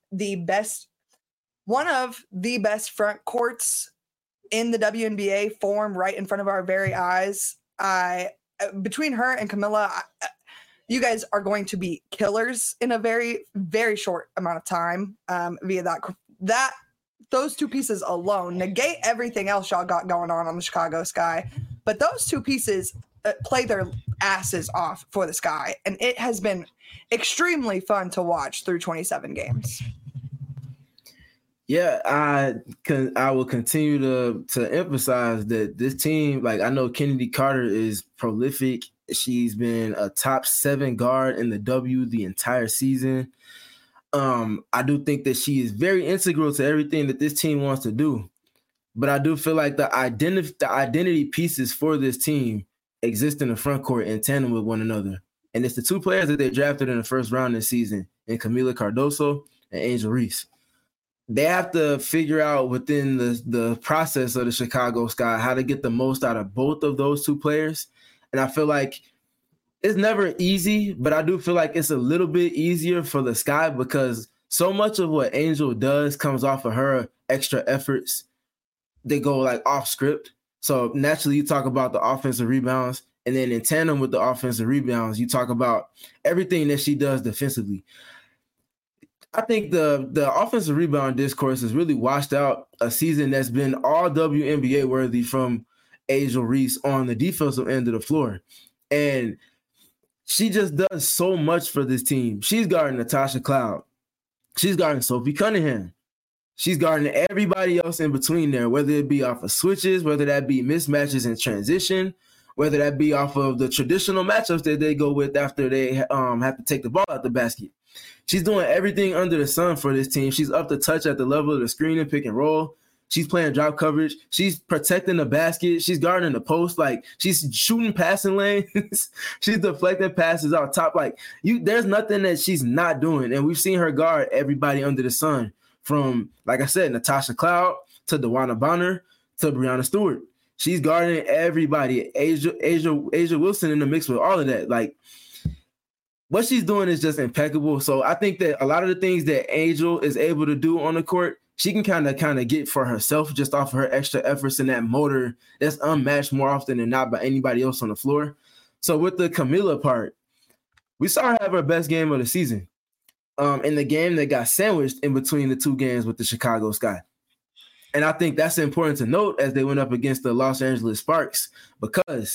one of the best front courts in the WNBA form right in front of our very eyes. Between her and Kamilla, you guys are going to be killers in a very, very short amount of time via that. Those two pieces alone negate everything else y'all got going on the Chicago Sky. But those two pieces play their asses off for the Sky. And it has been extremely fun to watch through 27 games. Yeah, I will continue to emphasize that this team, like, I know Kennedy Carter is prolific. She's been a top 7 guard in the W the entire season. I do think that she is very integral to everything that this team wants to do. But I do feel like the identity pieces for this team exist in the front court in tandem with one another. And it's the two players that they drafted in the first round this season, in Kamilla Cardoso and Angel Reese. They have to figure out within the process of the Chicago Sky how to get the most out of both of those two players. And I feel like it's never easy, but I do feel like it's a little bit easier for the Sky because so much of what Angel does comes off of her extra efforts. They go like off script. So naturally you talk about the offensive rebounds, and then in tandem with the offensive rebounds, you talk about everything that she does defensively. I think the offensive rebound discourse has really washed out a season that's been all WNBA worthy from Angel Reese on the defensive end of the floor. And she just does so much for this team. She's guarding Natasha Cloud. She's guarding Sophie Cunningham. She's guarding everybody else in between there, whether it be off of switches, whether that be mismatches in transition, whether that be off of the traditional matchups that they go with after they have to take the ball out the basket. She's doing everything under the sun for this team. She's up to touch at the level of the screen and pick and roll. She's playing drop coverage. She's protecting the basket. She's guarding the post. Like, she's shooting passing lanes. She's deflecting passes out top. Like, there's nothing that she's not doing. And we've seen her guard everybody under the sun, from, like I said, Natasha Cloud to DeWanna Bonner to Breanna Stewart. She's guarding everybody. Asia Wilson in the mix with all of that. Like, what she's doing is just impeccable. So I think that a lot of the things that Angel is able to do on the court, she can kind of get for herself just off of her extra efforts and that motor that's unmatched more often than not by anybody else on the floor. So with the Kamilla part, we saw her have her best game of the season in the game that got sandwiched in between the two games with the Chicago Sky. And I think that's important to note as they went up against the Los Angeles Sparks, because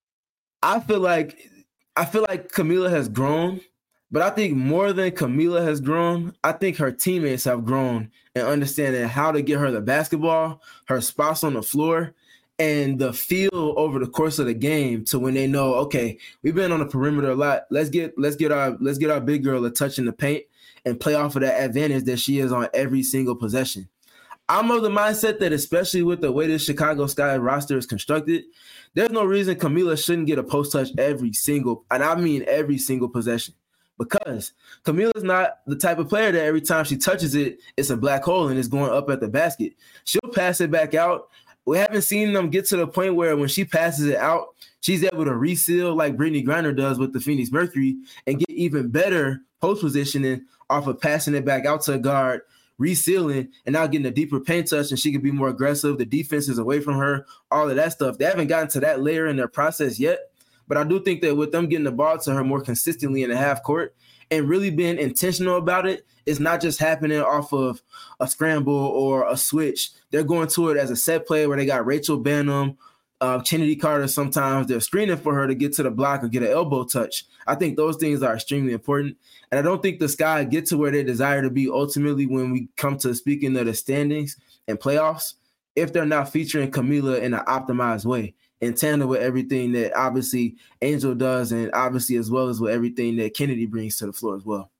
I feel like Kamilla has grown, but I think more than Kamilla has grown, I think her teammates have grown in understanding how to get her the basketball, her spots on the floor, and the feel over the course of the game to when they know, okay, we've been on the perimeter a lot. Let's get our big girl a touch in the paint and play off of that advantage that she is on every single possession. I'm of the mindset that, especially with the way the Chicago Sky roster is constructed, there's no reason Kamilla shouldn't get a post touch every single possession, because Kamilla's not the type of player that every time she touches it, it's a black hole and it's going up at the basket. She'll pass it back out we haven't seen them get to the point where when she passes it out, she's able to reseal like Brittany Griner does with the Phoenix Mercury and get even better post positioning off of passing it back out to a guard, resealing, and now getting a deeper paint touch, and she can be more aggressive. The defense is away from her, all of that stuff. They haven't gotten to that layer in their process yet, but I do think that with them getting the ball to her more consistently in the half court and really being intentional about it, it's not just happening off of a scramble or a switch. They're going to it as a set play where they got Rachel Banham, Kennedy Carter. Sometimes they're screening for her to get to the block or get an elbow touch. I think those things are extremely important. And I don't think the Sky get to where they desire to be ultimately when we come to speaking of the standings and playoffs if they're not featuring Camila in an optimized way, in tandem with everything that obviously Angel does and obviously as well as with everything that Kennedy brings to the floor as well.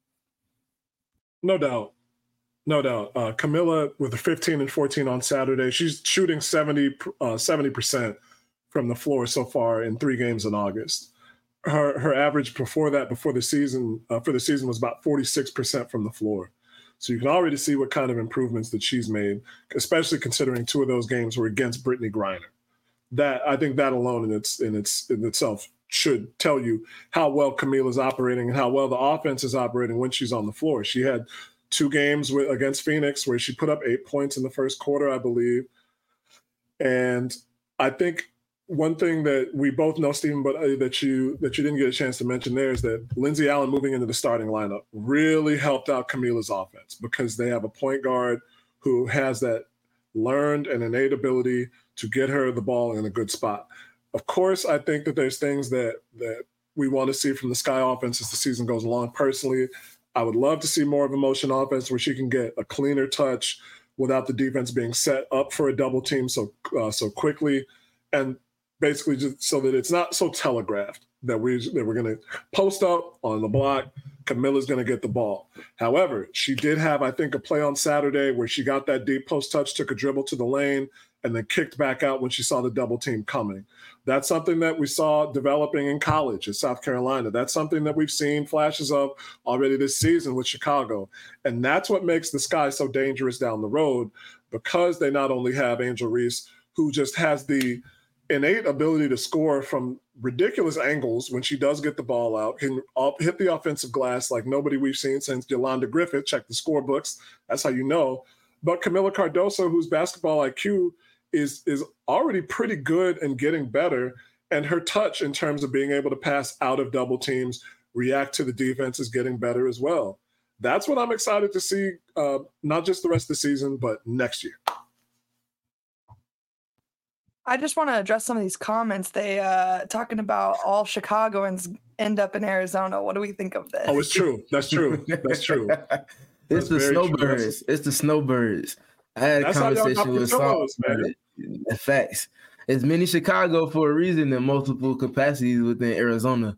No doubt. Camila with the 15 and 14 on Saturday, she's shooting 70% from the floor so far in 3 games in August. Her average before the season was about 46% from the floor. So you can already see what kind of improvements that she's made, especially considering 2 of those games were against Brittany Griner. That I think that alone in itself should tell you how well Camila's operating and how well the offense is operating when she's on the floor. She had 2 games against Phoenix where she put up 8 points in the first quarter, I believe. And I think one thing that we both know, Stephen, but that you didn't get a chance to mention there is that Lindsay Allen moving into the starting lineup really helped out Camila's offense because they have a point guard who has that learned and innate ability to get her the ball in a good spot. Of course, I think that there's things that we want to see from the Sky offense as the season goes along. Personally, I would love to see more of a motion offense where she can get a cleaner touch without the defense being set up for a double team so quickly, and basically just so that it's not so telegraphed that we're going to post up on the block. Camila's going to get the ball. However, she did have, I think, a play on Saturday where she got that deep post touch, took a dribble to the lane, and then kicked back out when she saw the double team coming. That's something that we saw developing in college at South Carolina. That's something that we've seen flashes of already this season with Chicago. And that's what makes the Sky so dangerous down the road, because they not only have Angel Reese, who just has the innate ability to score from ridiculous angles when she does get the ball out, can hit the offensive glass like nobody we've seen since Yolanda Griffith. Check the scorebooks. That's how you know. But Camila Cardoso, whose basketball IQ is already pretty good and getting better, and her touch in terms of being able to pass out of double teams, react to the defense, is getting better as well. That's what I'm excited to see, not just the rest of the season, but next year. I just want to address some of these comments. They talking about all Chicagoans end up in Arizona. What do we think of this? Oh, it's true. That's true. That's true. It's the snowbirds. It's the snowbirds. I had a conversation with Saul. Facts. It's mini Chicago for a reason in multiple capacities within Arizona.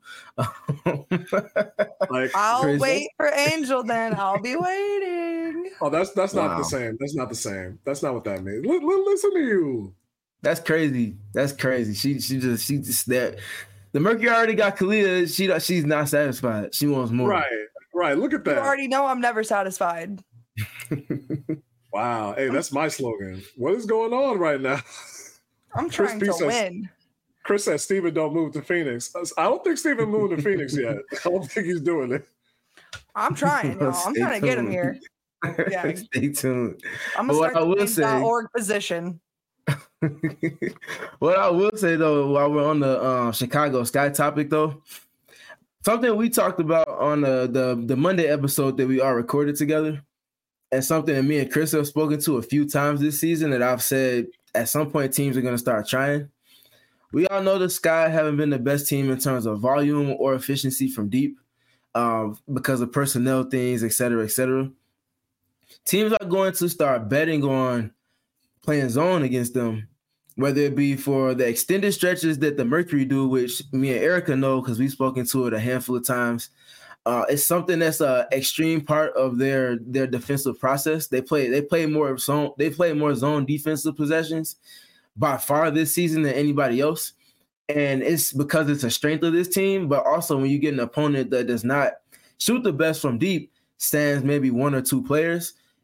I'll wait for Angel then. I'll be waiting. Oh, that's not the same. That's not the same. That's not what that means. Listen to you. That's crazy. That's crazy. She just that. The Mercury already got Kalia. She's not satisfied. She wants more. Right. Look at that. You already know I'm never satisfied. Wow. Hey, that's my slogan. What is going on right now? I'm trying to win. Chris says Steven don't move to Phoenix. I don't think Steven moved to Phoenix yet. I don't think he's doing it. I'm trying, y'all. I'm trying to get him here. Yeah. Stay tuned. I'm going to start the org position. What I will say, though, while we're on the Chicago Sky topic, though, something we talked about on the Monday episode that we all recorded together, and something that me and Chris have spoken to a few times this season that I've said at some point teams are going to start trying. We all know the Sky haven't been the best team in terms of volume or efficiency from deep because of personnel things, et cetera, et cetera. Teams are going to start betting on playing zone against them, whether it be for the extended stretches that the Mercury do, which me and Erica know because we've spoken to it a handful of times. It's something that's an extreme part of their defensive process. They play more zone defensive possessions by far this season than anybody else. And it's because it's a strength of this team, but also when you get an opponent that does not shoot the best from deep, stands maybe 1 or 2 players,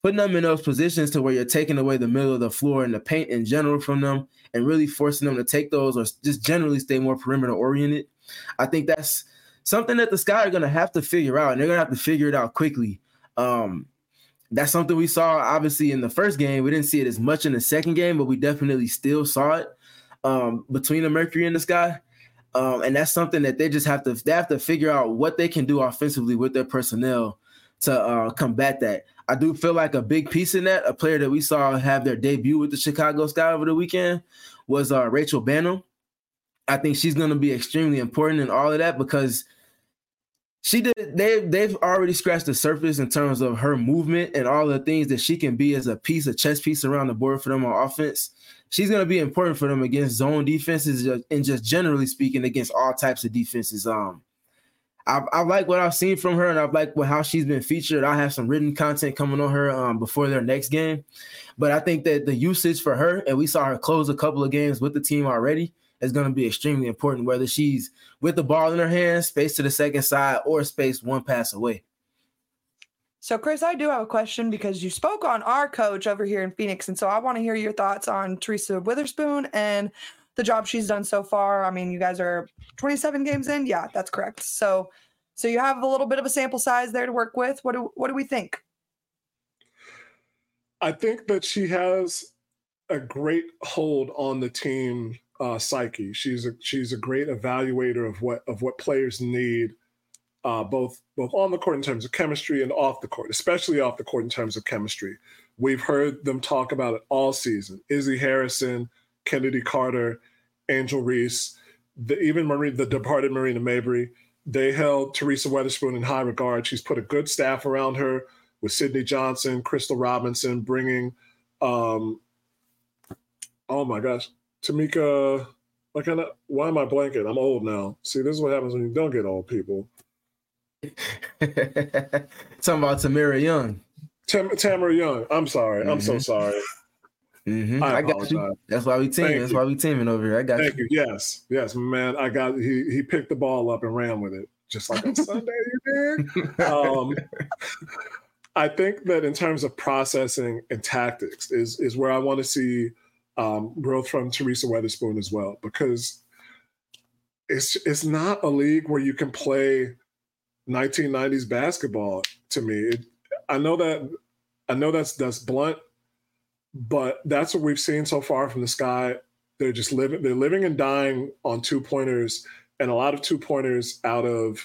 putting them in those positions to where you're taking away the middle of the floor and the paint in general from them and really forcing them to take those or just generally stay more perimeter oriented. I think that's something that the Sky are going to have to figure out, and they're going to have to figure it out quickly. That's something we saw, obviously, in the first game. We didn't see it as much in the second game, but we definitely still saw it between the Mercury and the Sky. And that's something that they have to figure out what they can do offensively with their personnel to combat that. I do feel like a big piece in that, a player that we saw have their debut with the Chicago Sky over the weekend, was Rachel Banham. I think she's going to be extremely important in all of that because they've already scratched the surface in terms of her movement and all the things that she can be as a chess piece around the board for them on offense. She's going to be important for them against zone defenses and just generally speaking against all types of defenses. I like what I've seen from her, and I like how she's been featured. I have some written content coming on her before their next game. But I think that the usage for her, and we saw her close a couple of games with the team already, is going to be extremely important, whether she's with the ball in her hands, space to the second side, or space one pass away. So, Chris, I do have a question because you spoke on our coach over here in Phoenix, and so I want to hear your thoughts on Teresa Witherspoon and the job she's done so far. I mean, you guys are 27 games in. Yeah, that's correct. So you have a little bit of a sample size there to work with. What do we think? I think that she has a great hold on the team psyche. She's a great evaluator of what players need, both on the court in terms of chemistry and off the court, especially off the court in terms of chemistry. We've heard them talk about it all season. Izzy Harrison, Kennedy Carter, Angel Reese, even the departed Marina Mabry, they held Teresa Witherspoon in high regard. She's put a good staff around her with Sydney Johnson, Crystal Robinson, bringing, oh my gosh, Tamika, why am I blanking? I'm old now. See, this is what happens when you don't get old, people. Talking about Tamara Young. Tamara Young. I'm sorry. Mm-hmm. I'm so sorry. Mm-hmm. I got you. That's why we teaming. That's why we teaming over here. I got you. Thank you. Yes, man. He picked the ball up and ran with it, just like on Sunday you did. I think that in terms of processing and tactics is where I want to see growth from Teresa Witherspoon as well, because it's not a league where you can play 1990s basketball. To me, I know that's blunt, but that's what we've seen so far from the Sky. They're living and dying on 2-pointers, and a lot of 2-pointers out of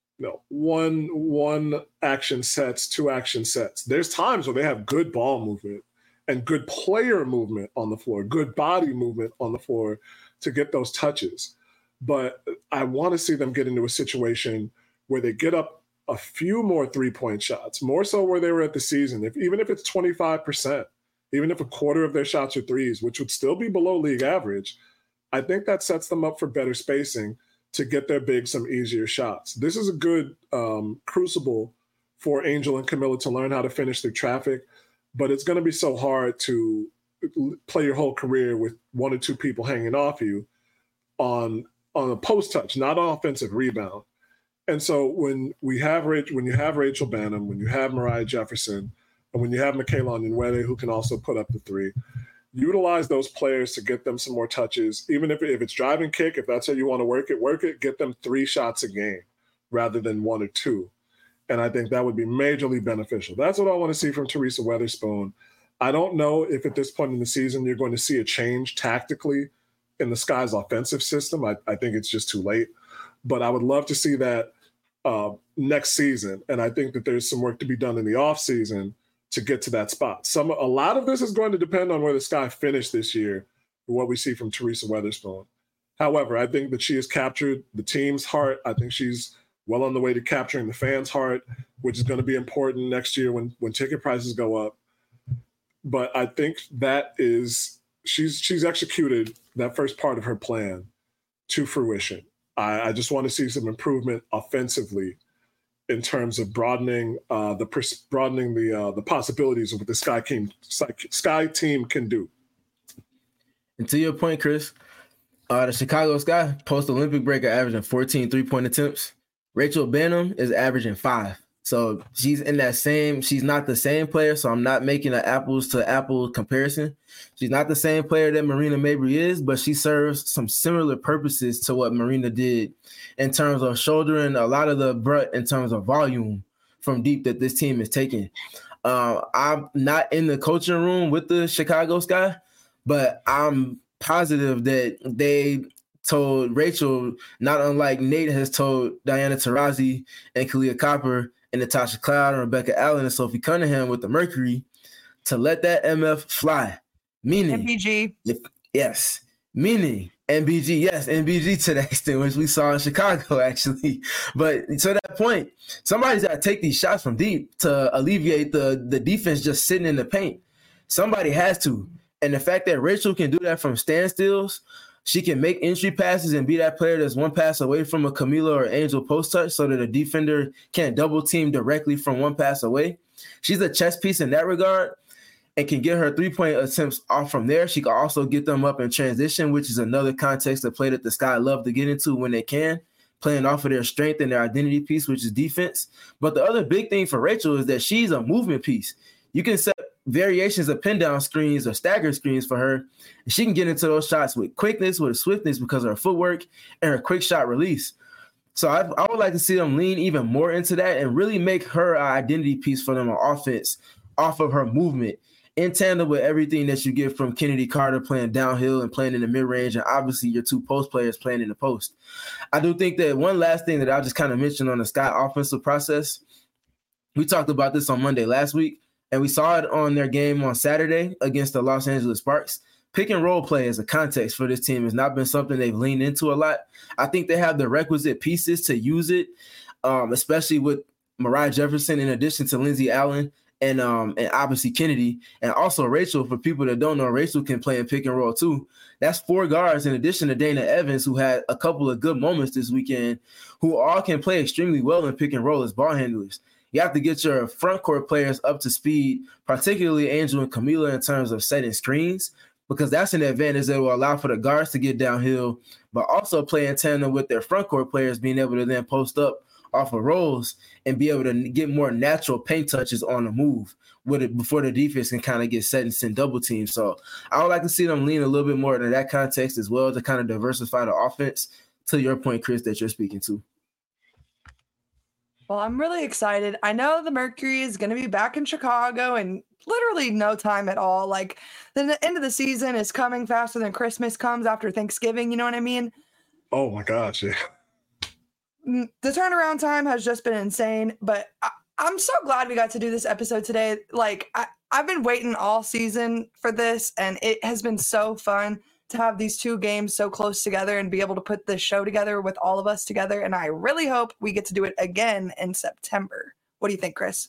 one action sets, 2 action sets. There's times where they have good ball movement and good player movement on the floor, good body movement on the floor to get those touches. But I want to see them get into a situation where they get up a few more 3-point shots, more so where they were at the season. Even if it's 25%, even if a quarter of their shots are threes, which would still be below league average, I think that sets them up for better spacing to get their bigs some easier shots. This is a good crucible for Angel and Camilla to learn how to finish their traffic, but it's going to be so hard to play your whole career with 1 or 2 people hanging off you on a post touch, not on offensive rebound. And so when you have Rachel Banham, when you have Mariah Jefferson, and when you have Michaela Onyenwere, who can also put up the 3, utilize those players to get them some more touches. Even if it's drive and kick, if that's how you want to work it, get them 3 shots a game rather than 1 or 2. And I think that would be majorly beneficial. That's what I want to see from Teresa Witherspoon. I don't know if at this point in the season you're going to see a change tactically in the Sky's offensive system. I think it's just too late. But I would love to see that next season. And I think that there's some work to be done in the offseason to get to that spot. A lot of this is going to depend on where the Sky finish this year and what we see from Teresa Witherspoon. However, I think that she has captured the team's heart. I think she's well on the way to capturing the fans' heart, which is going to be important next year when ticket prices go up. But I think that she's executed that first part of her plan to fruition. I just want to see some improvement offensively in terms of broadening the possibilities of what the Sky team can do. And to your point, Chris, the Chicago Sky post-Olympic break are averaging 14 3-point attempts. Rachel Banham is averaging 5. So she's not the same player. So I'm not making an apples to apples comparison. She's not the same player that Marina Mabrey is, but she serves some similar purposes to what Marina did in terms of shouldering a lot of the brunt in terms of volume from deep that this team is taking. I'm not in the coaching room with the Chicago Sky, but I'm positive that they told Rachel, not unlike Nate has told Diana Taurasi and Kalia Copper and Natasha Cloud and Rebecca Allen and Sophie Cunningham with the Mercury, to let that MF fly. Meaning MBG. Meaning MBG, yes, MBG to that extent, which we saw in Chicago, actually. But to that point, somebody's got to take these shots from deep to alleviate the defense just sitting in the paint. Somebody has to. And the fact that Rachel can do that from standstills, she can make entry passes and be that player that's one pass away from a Camila or Angel post touch so that a defender can't double team directly from one pass away. She's a chess piece in that regard and can get her 3-point attempts off from there. She can also get them up in transition, which is another context of play that the Sky love to get into when they can, playing off of their strength and their identity piece, which is defense. But the other big thing for Rachel is that she's a movement piece. You can set variations of pin down screens or stagger screens for her, and she can get into those shots with quickness, with swiftness because of her footwork and her quick shot release. So I would like to see them lean even more into that and really make her an identity piece for them on offense off of her movement, in tandem with everything that you get from Kennedy Carter playing downhill and playing in the mid-range, and obviously your two post players playing in the post. I do think that one last thing that I'll just kind of mention on the Sky offensive process, we talked about this on Monday last week, and we saw it on their game on Saturday against the Los Angeles Sparks. Pick and roll play as a context for this team has not been something they've leaned into a lot. I think they have the requisite pieces to use it, especially with Mariah Jefferson in addition to Lindsay Allen and obviously Kennedy. And also Rachel, for people that don't know, Rachel can play in pick and roll too. That's 4 guards in addition to Dana Evans, who had a couple of good moments this weekend, who all can play extremely well in pick and roll as ball handlers. You have to get your front court players up to speed, particularly Angel and Camila, in terms of setting screens, because that's an advantage that will allow for the guards to get downhill, but also play in tandem with their front court players being able to then post up off of rolls and be able to get more natural paint touches on the move with it before the defense can kind of get set and send double teams. So I would like to see them lean a little bit more into that context as well to kind of diversify the offense, to your point, Chris, that you're speaking to. Well, I'm really excited. I know the Mercury is going to be back in Chicago in literally no time at all. Like, the end of the season is coming faster than Christmas comes after Thanksgiving. You know what I mean? Oh, my gosh, yeah. The turnaround time has just been insane, but I'm so glad we got to do this episode today. Like, I've been waiting all season for this, and it has been so fun to have these 2 games so close together and be able to put this show together with all of us together. And I really hope we get to do it again in September. What do you think, Chris?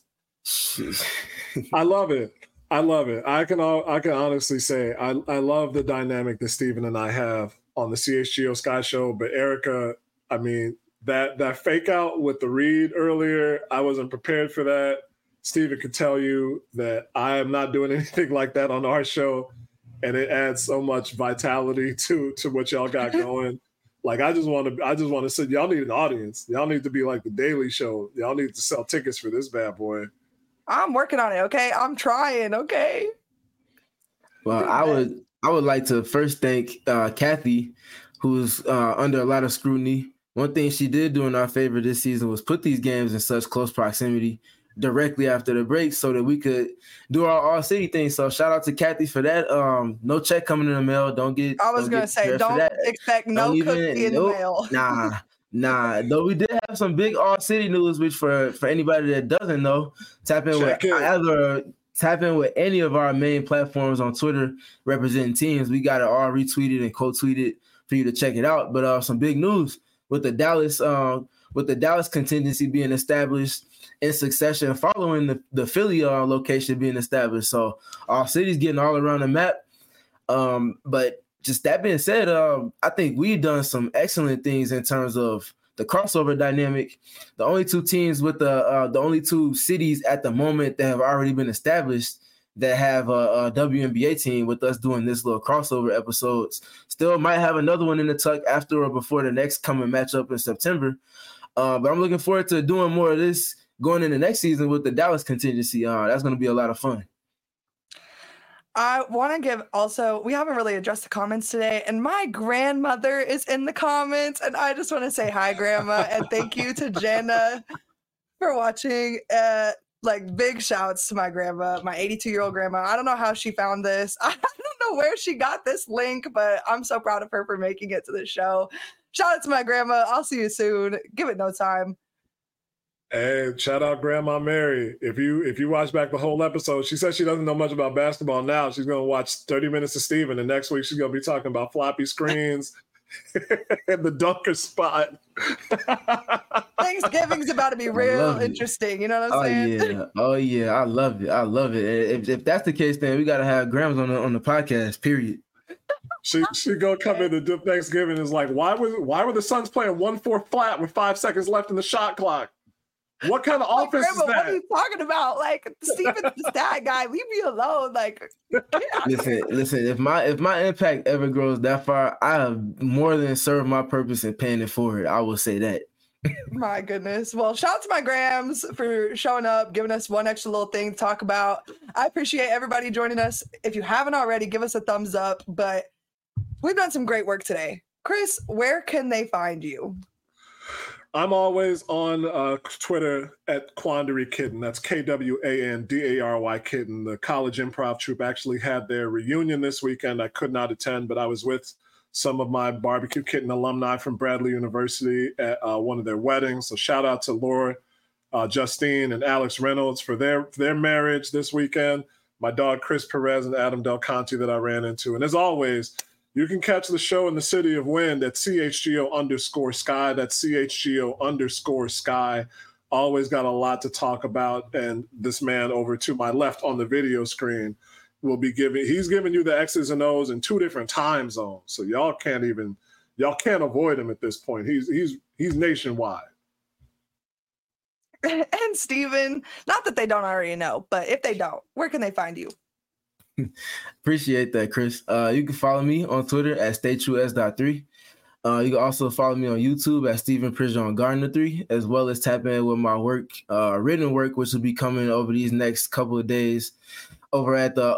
I love it. I can honestly say I love the dynamic that Steven and I have on the CHGO Sky Show. But Erica, I mean, that fake out with the read earlier, I wasn't prepared for that. Steven could tell you that I am not doing anything like that on our show. And it adds so much vitality to what y'all got going. Like, I just want to say, y'all need an audience. Y'all need to be like the Daily Show. Y'all need to sell tickets for this bad boy. I'm working on it. Okay, I'm trying. Okay. Well, I would like to first thank Kathy, who's under a lot of scrutiny. One thing she did do in our favor this season was put these games in such close proximity directly after the break so that we could do our all city thing. So shout out to Kathy for that. No check coming in the mail. Don't expect no cookie in the mail. Nah. Though we did have some big all city news, which for anybody that doesn't know, tap in with any of our main platforms on Twitter representing teams. We got it all retweeted and co-tweeted for you to check it out. But some big news with the Dallas contingency being established in succession following the Philly location being established. So our city's getting all around the map. But just that being said, I think we've done some excellent things in terms of the crossover dynamic. The only 2 teams with the only 2 cities at the moment that have already been established that have a WNBA team, with us doing this little crossover episodes. Still might have another one in the tuck after or before the next coming matchup in September. But I'm looking forward to doing more of this going into next season with the Dallas contingency. That's going to be a lot of fun. I want to give also, we haven't really addressed the comments today, and my grandmother is in the comments, and I just want to say hi, Grandma, and thank you to Jenna for watching. Like, big shouts to my grandma, my 82-year-old grandma. I don't know how she found this. I don't know where she got this link, but I'm so proud of her for making it to the show. Shout out to my grandma. I'll see you soon. Give it no time. Hey, shout out Grandma Mary. If you watch back the whole episode, she says she doesn't know much about basketball now. She's going to watch 30 Minutes of Steven, and next week she's going to be talking about floppy screens and the dunker spot. Thanksgiving's about to be real interesting. You know what I'm saying? Oh, yeah. I love it. If that's the case, then we got to have Grams on the podcast, period. She gonna come into Thanksgiving and is like, why were the Suns playing 1-4 flat with 5 seconds left in the shot clock? What kind of offense is that? What are you talking about? Like, Steven's the stat guy. Leave me alone. Like, listen. If my impact ever grows that far, I have more than served my purpose in paying it forward. I will say that. My goodness. Well, shout out to my Grams for showing up, giving us one extra little thing to talk about. I appreciate everybody joining us. If you haven't already, give us a thumbs up. But we've done some great work today. Chris, where can they find you? I'm always on Twitter at Quandary Kitten. That's Kwandary Kitten. The college improv troupe actually had their reunion this weekend. I could not attend, but I was with some of my Barbecue Kitten alumni from Bradley University at one of their weddings. So shout out to Laura, Justine, and Alex Reynolds for their marriage this weekend. My dog Chris Perez and Adam Del Conte that I ran into. And as always, you can catch the show in the City of Wind at CHGO_Sky. That's CHGO_Sky. Always got a lot to talk about. And this man over to my left on the video screen he's giving you the X's and O's in 2 different time zones. So y'all can't avoid him at this point. He's nationwide. And Steven, not that they don't already know, but if they don't, where can they find you? Appreciate that, Chris. You can follow me on Twitter at StayTrueS.3. You can also follow me on YouTube at Stephen Pridgeon Gardner 3, as well as tap in with my work, written work, which will be coming over these next couple of days over at the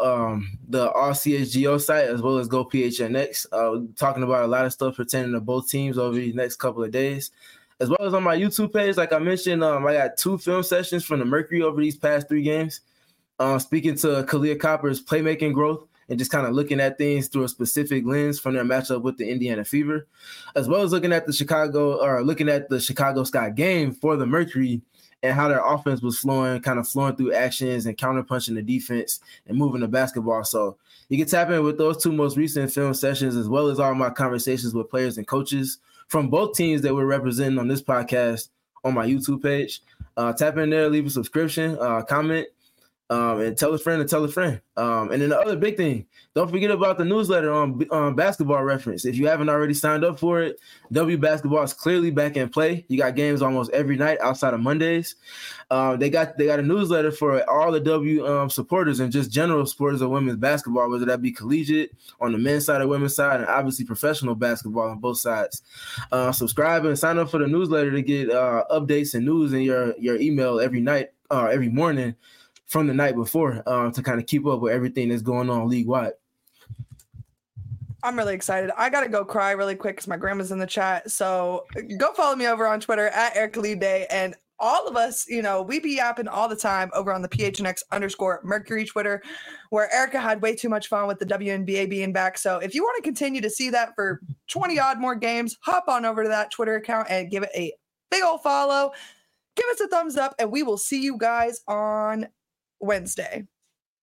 RCHGO site, as well as Go PHNX. Talking about a lot of stuff pertaining to both teams over these next couple of days, as well as on my YouTube page. Like I mentioned, I got 2 film sessions from the Mercury over these past 3 games. Speaking to Kahleah Copper's playmaking growth and just kind of looking at things through a specific lens from their matchup with the Indiana Fever, as well as looking at the Chicago Sky game for the Mercury and how their offense was flowing through actions and counterpunching the defense and moving the basketball. So you can tap in with those 2 most recent film sessions, as well as all my conversations with players and coaches from both teams that we're representing on this podcast on my YouTube page. Tap in there, leave a subscription, comment, and tell a friend to tell a friend. And then the other big thing, don't forget about the newsletter on Basketball Reference. If you haven't already signed up for it, W Basketball is clearly back in play. You got games almost every night outside of Mondays. They got a newsletter for all the W supporters and just general supporters of women's basketball, whether that be collegiate on the men's side or women's side, and obviously professional basketball on both sides. Subscribe and sign up for the newsletter to get updates and news in your email every night or every morning from the night before, to kind of keep up with everything that's going on league-wide. I'm really excited. I got to go cry really quick because my grandma's in the chat. So go follow me over on Twitter at Erica Lee Day. And all of us, we be yapping all the time over on the PHNX_Mercury Twitter, where Erica had way too much fun with the WNBA being back. So if you want to continue to see that for 20 odd more games, hop on over to that Twitter account and give it a big old follow. Give us a thumbs up, and we will see you guys on Wednesday.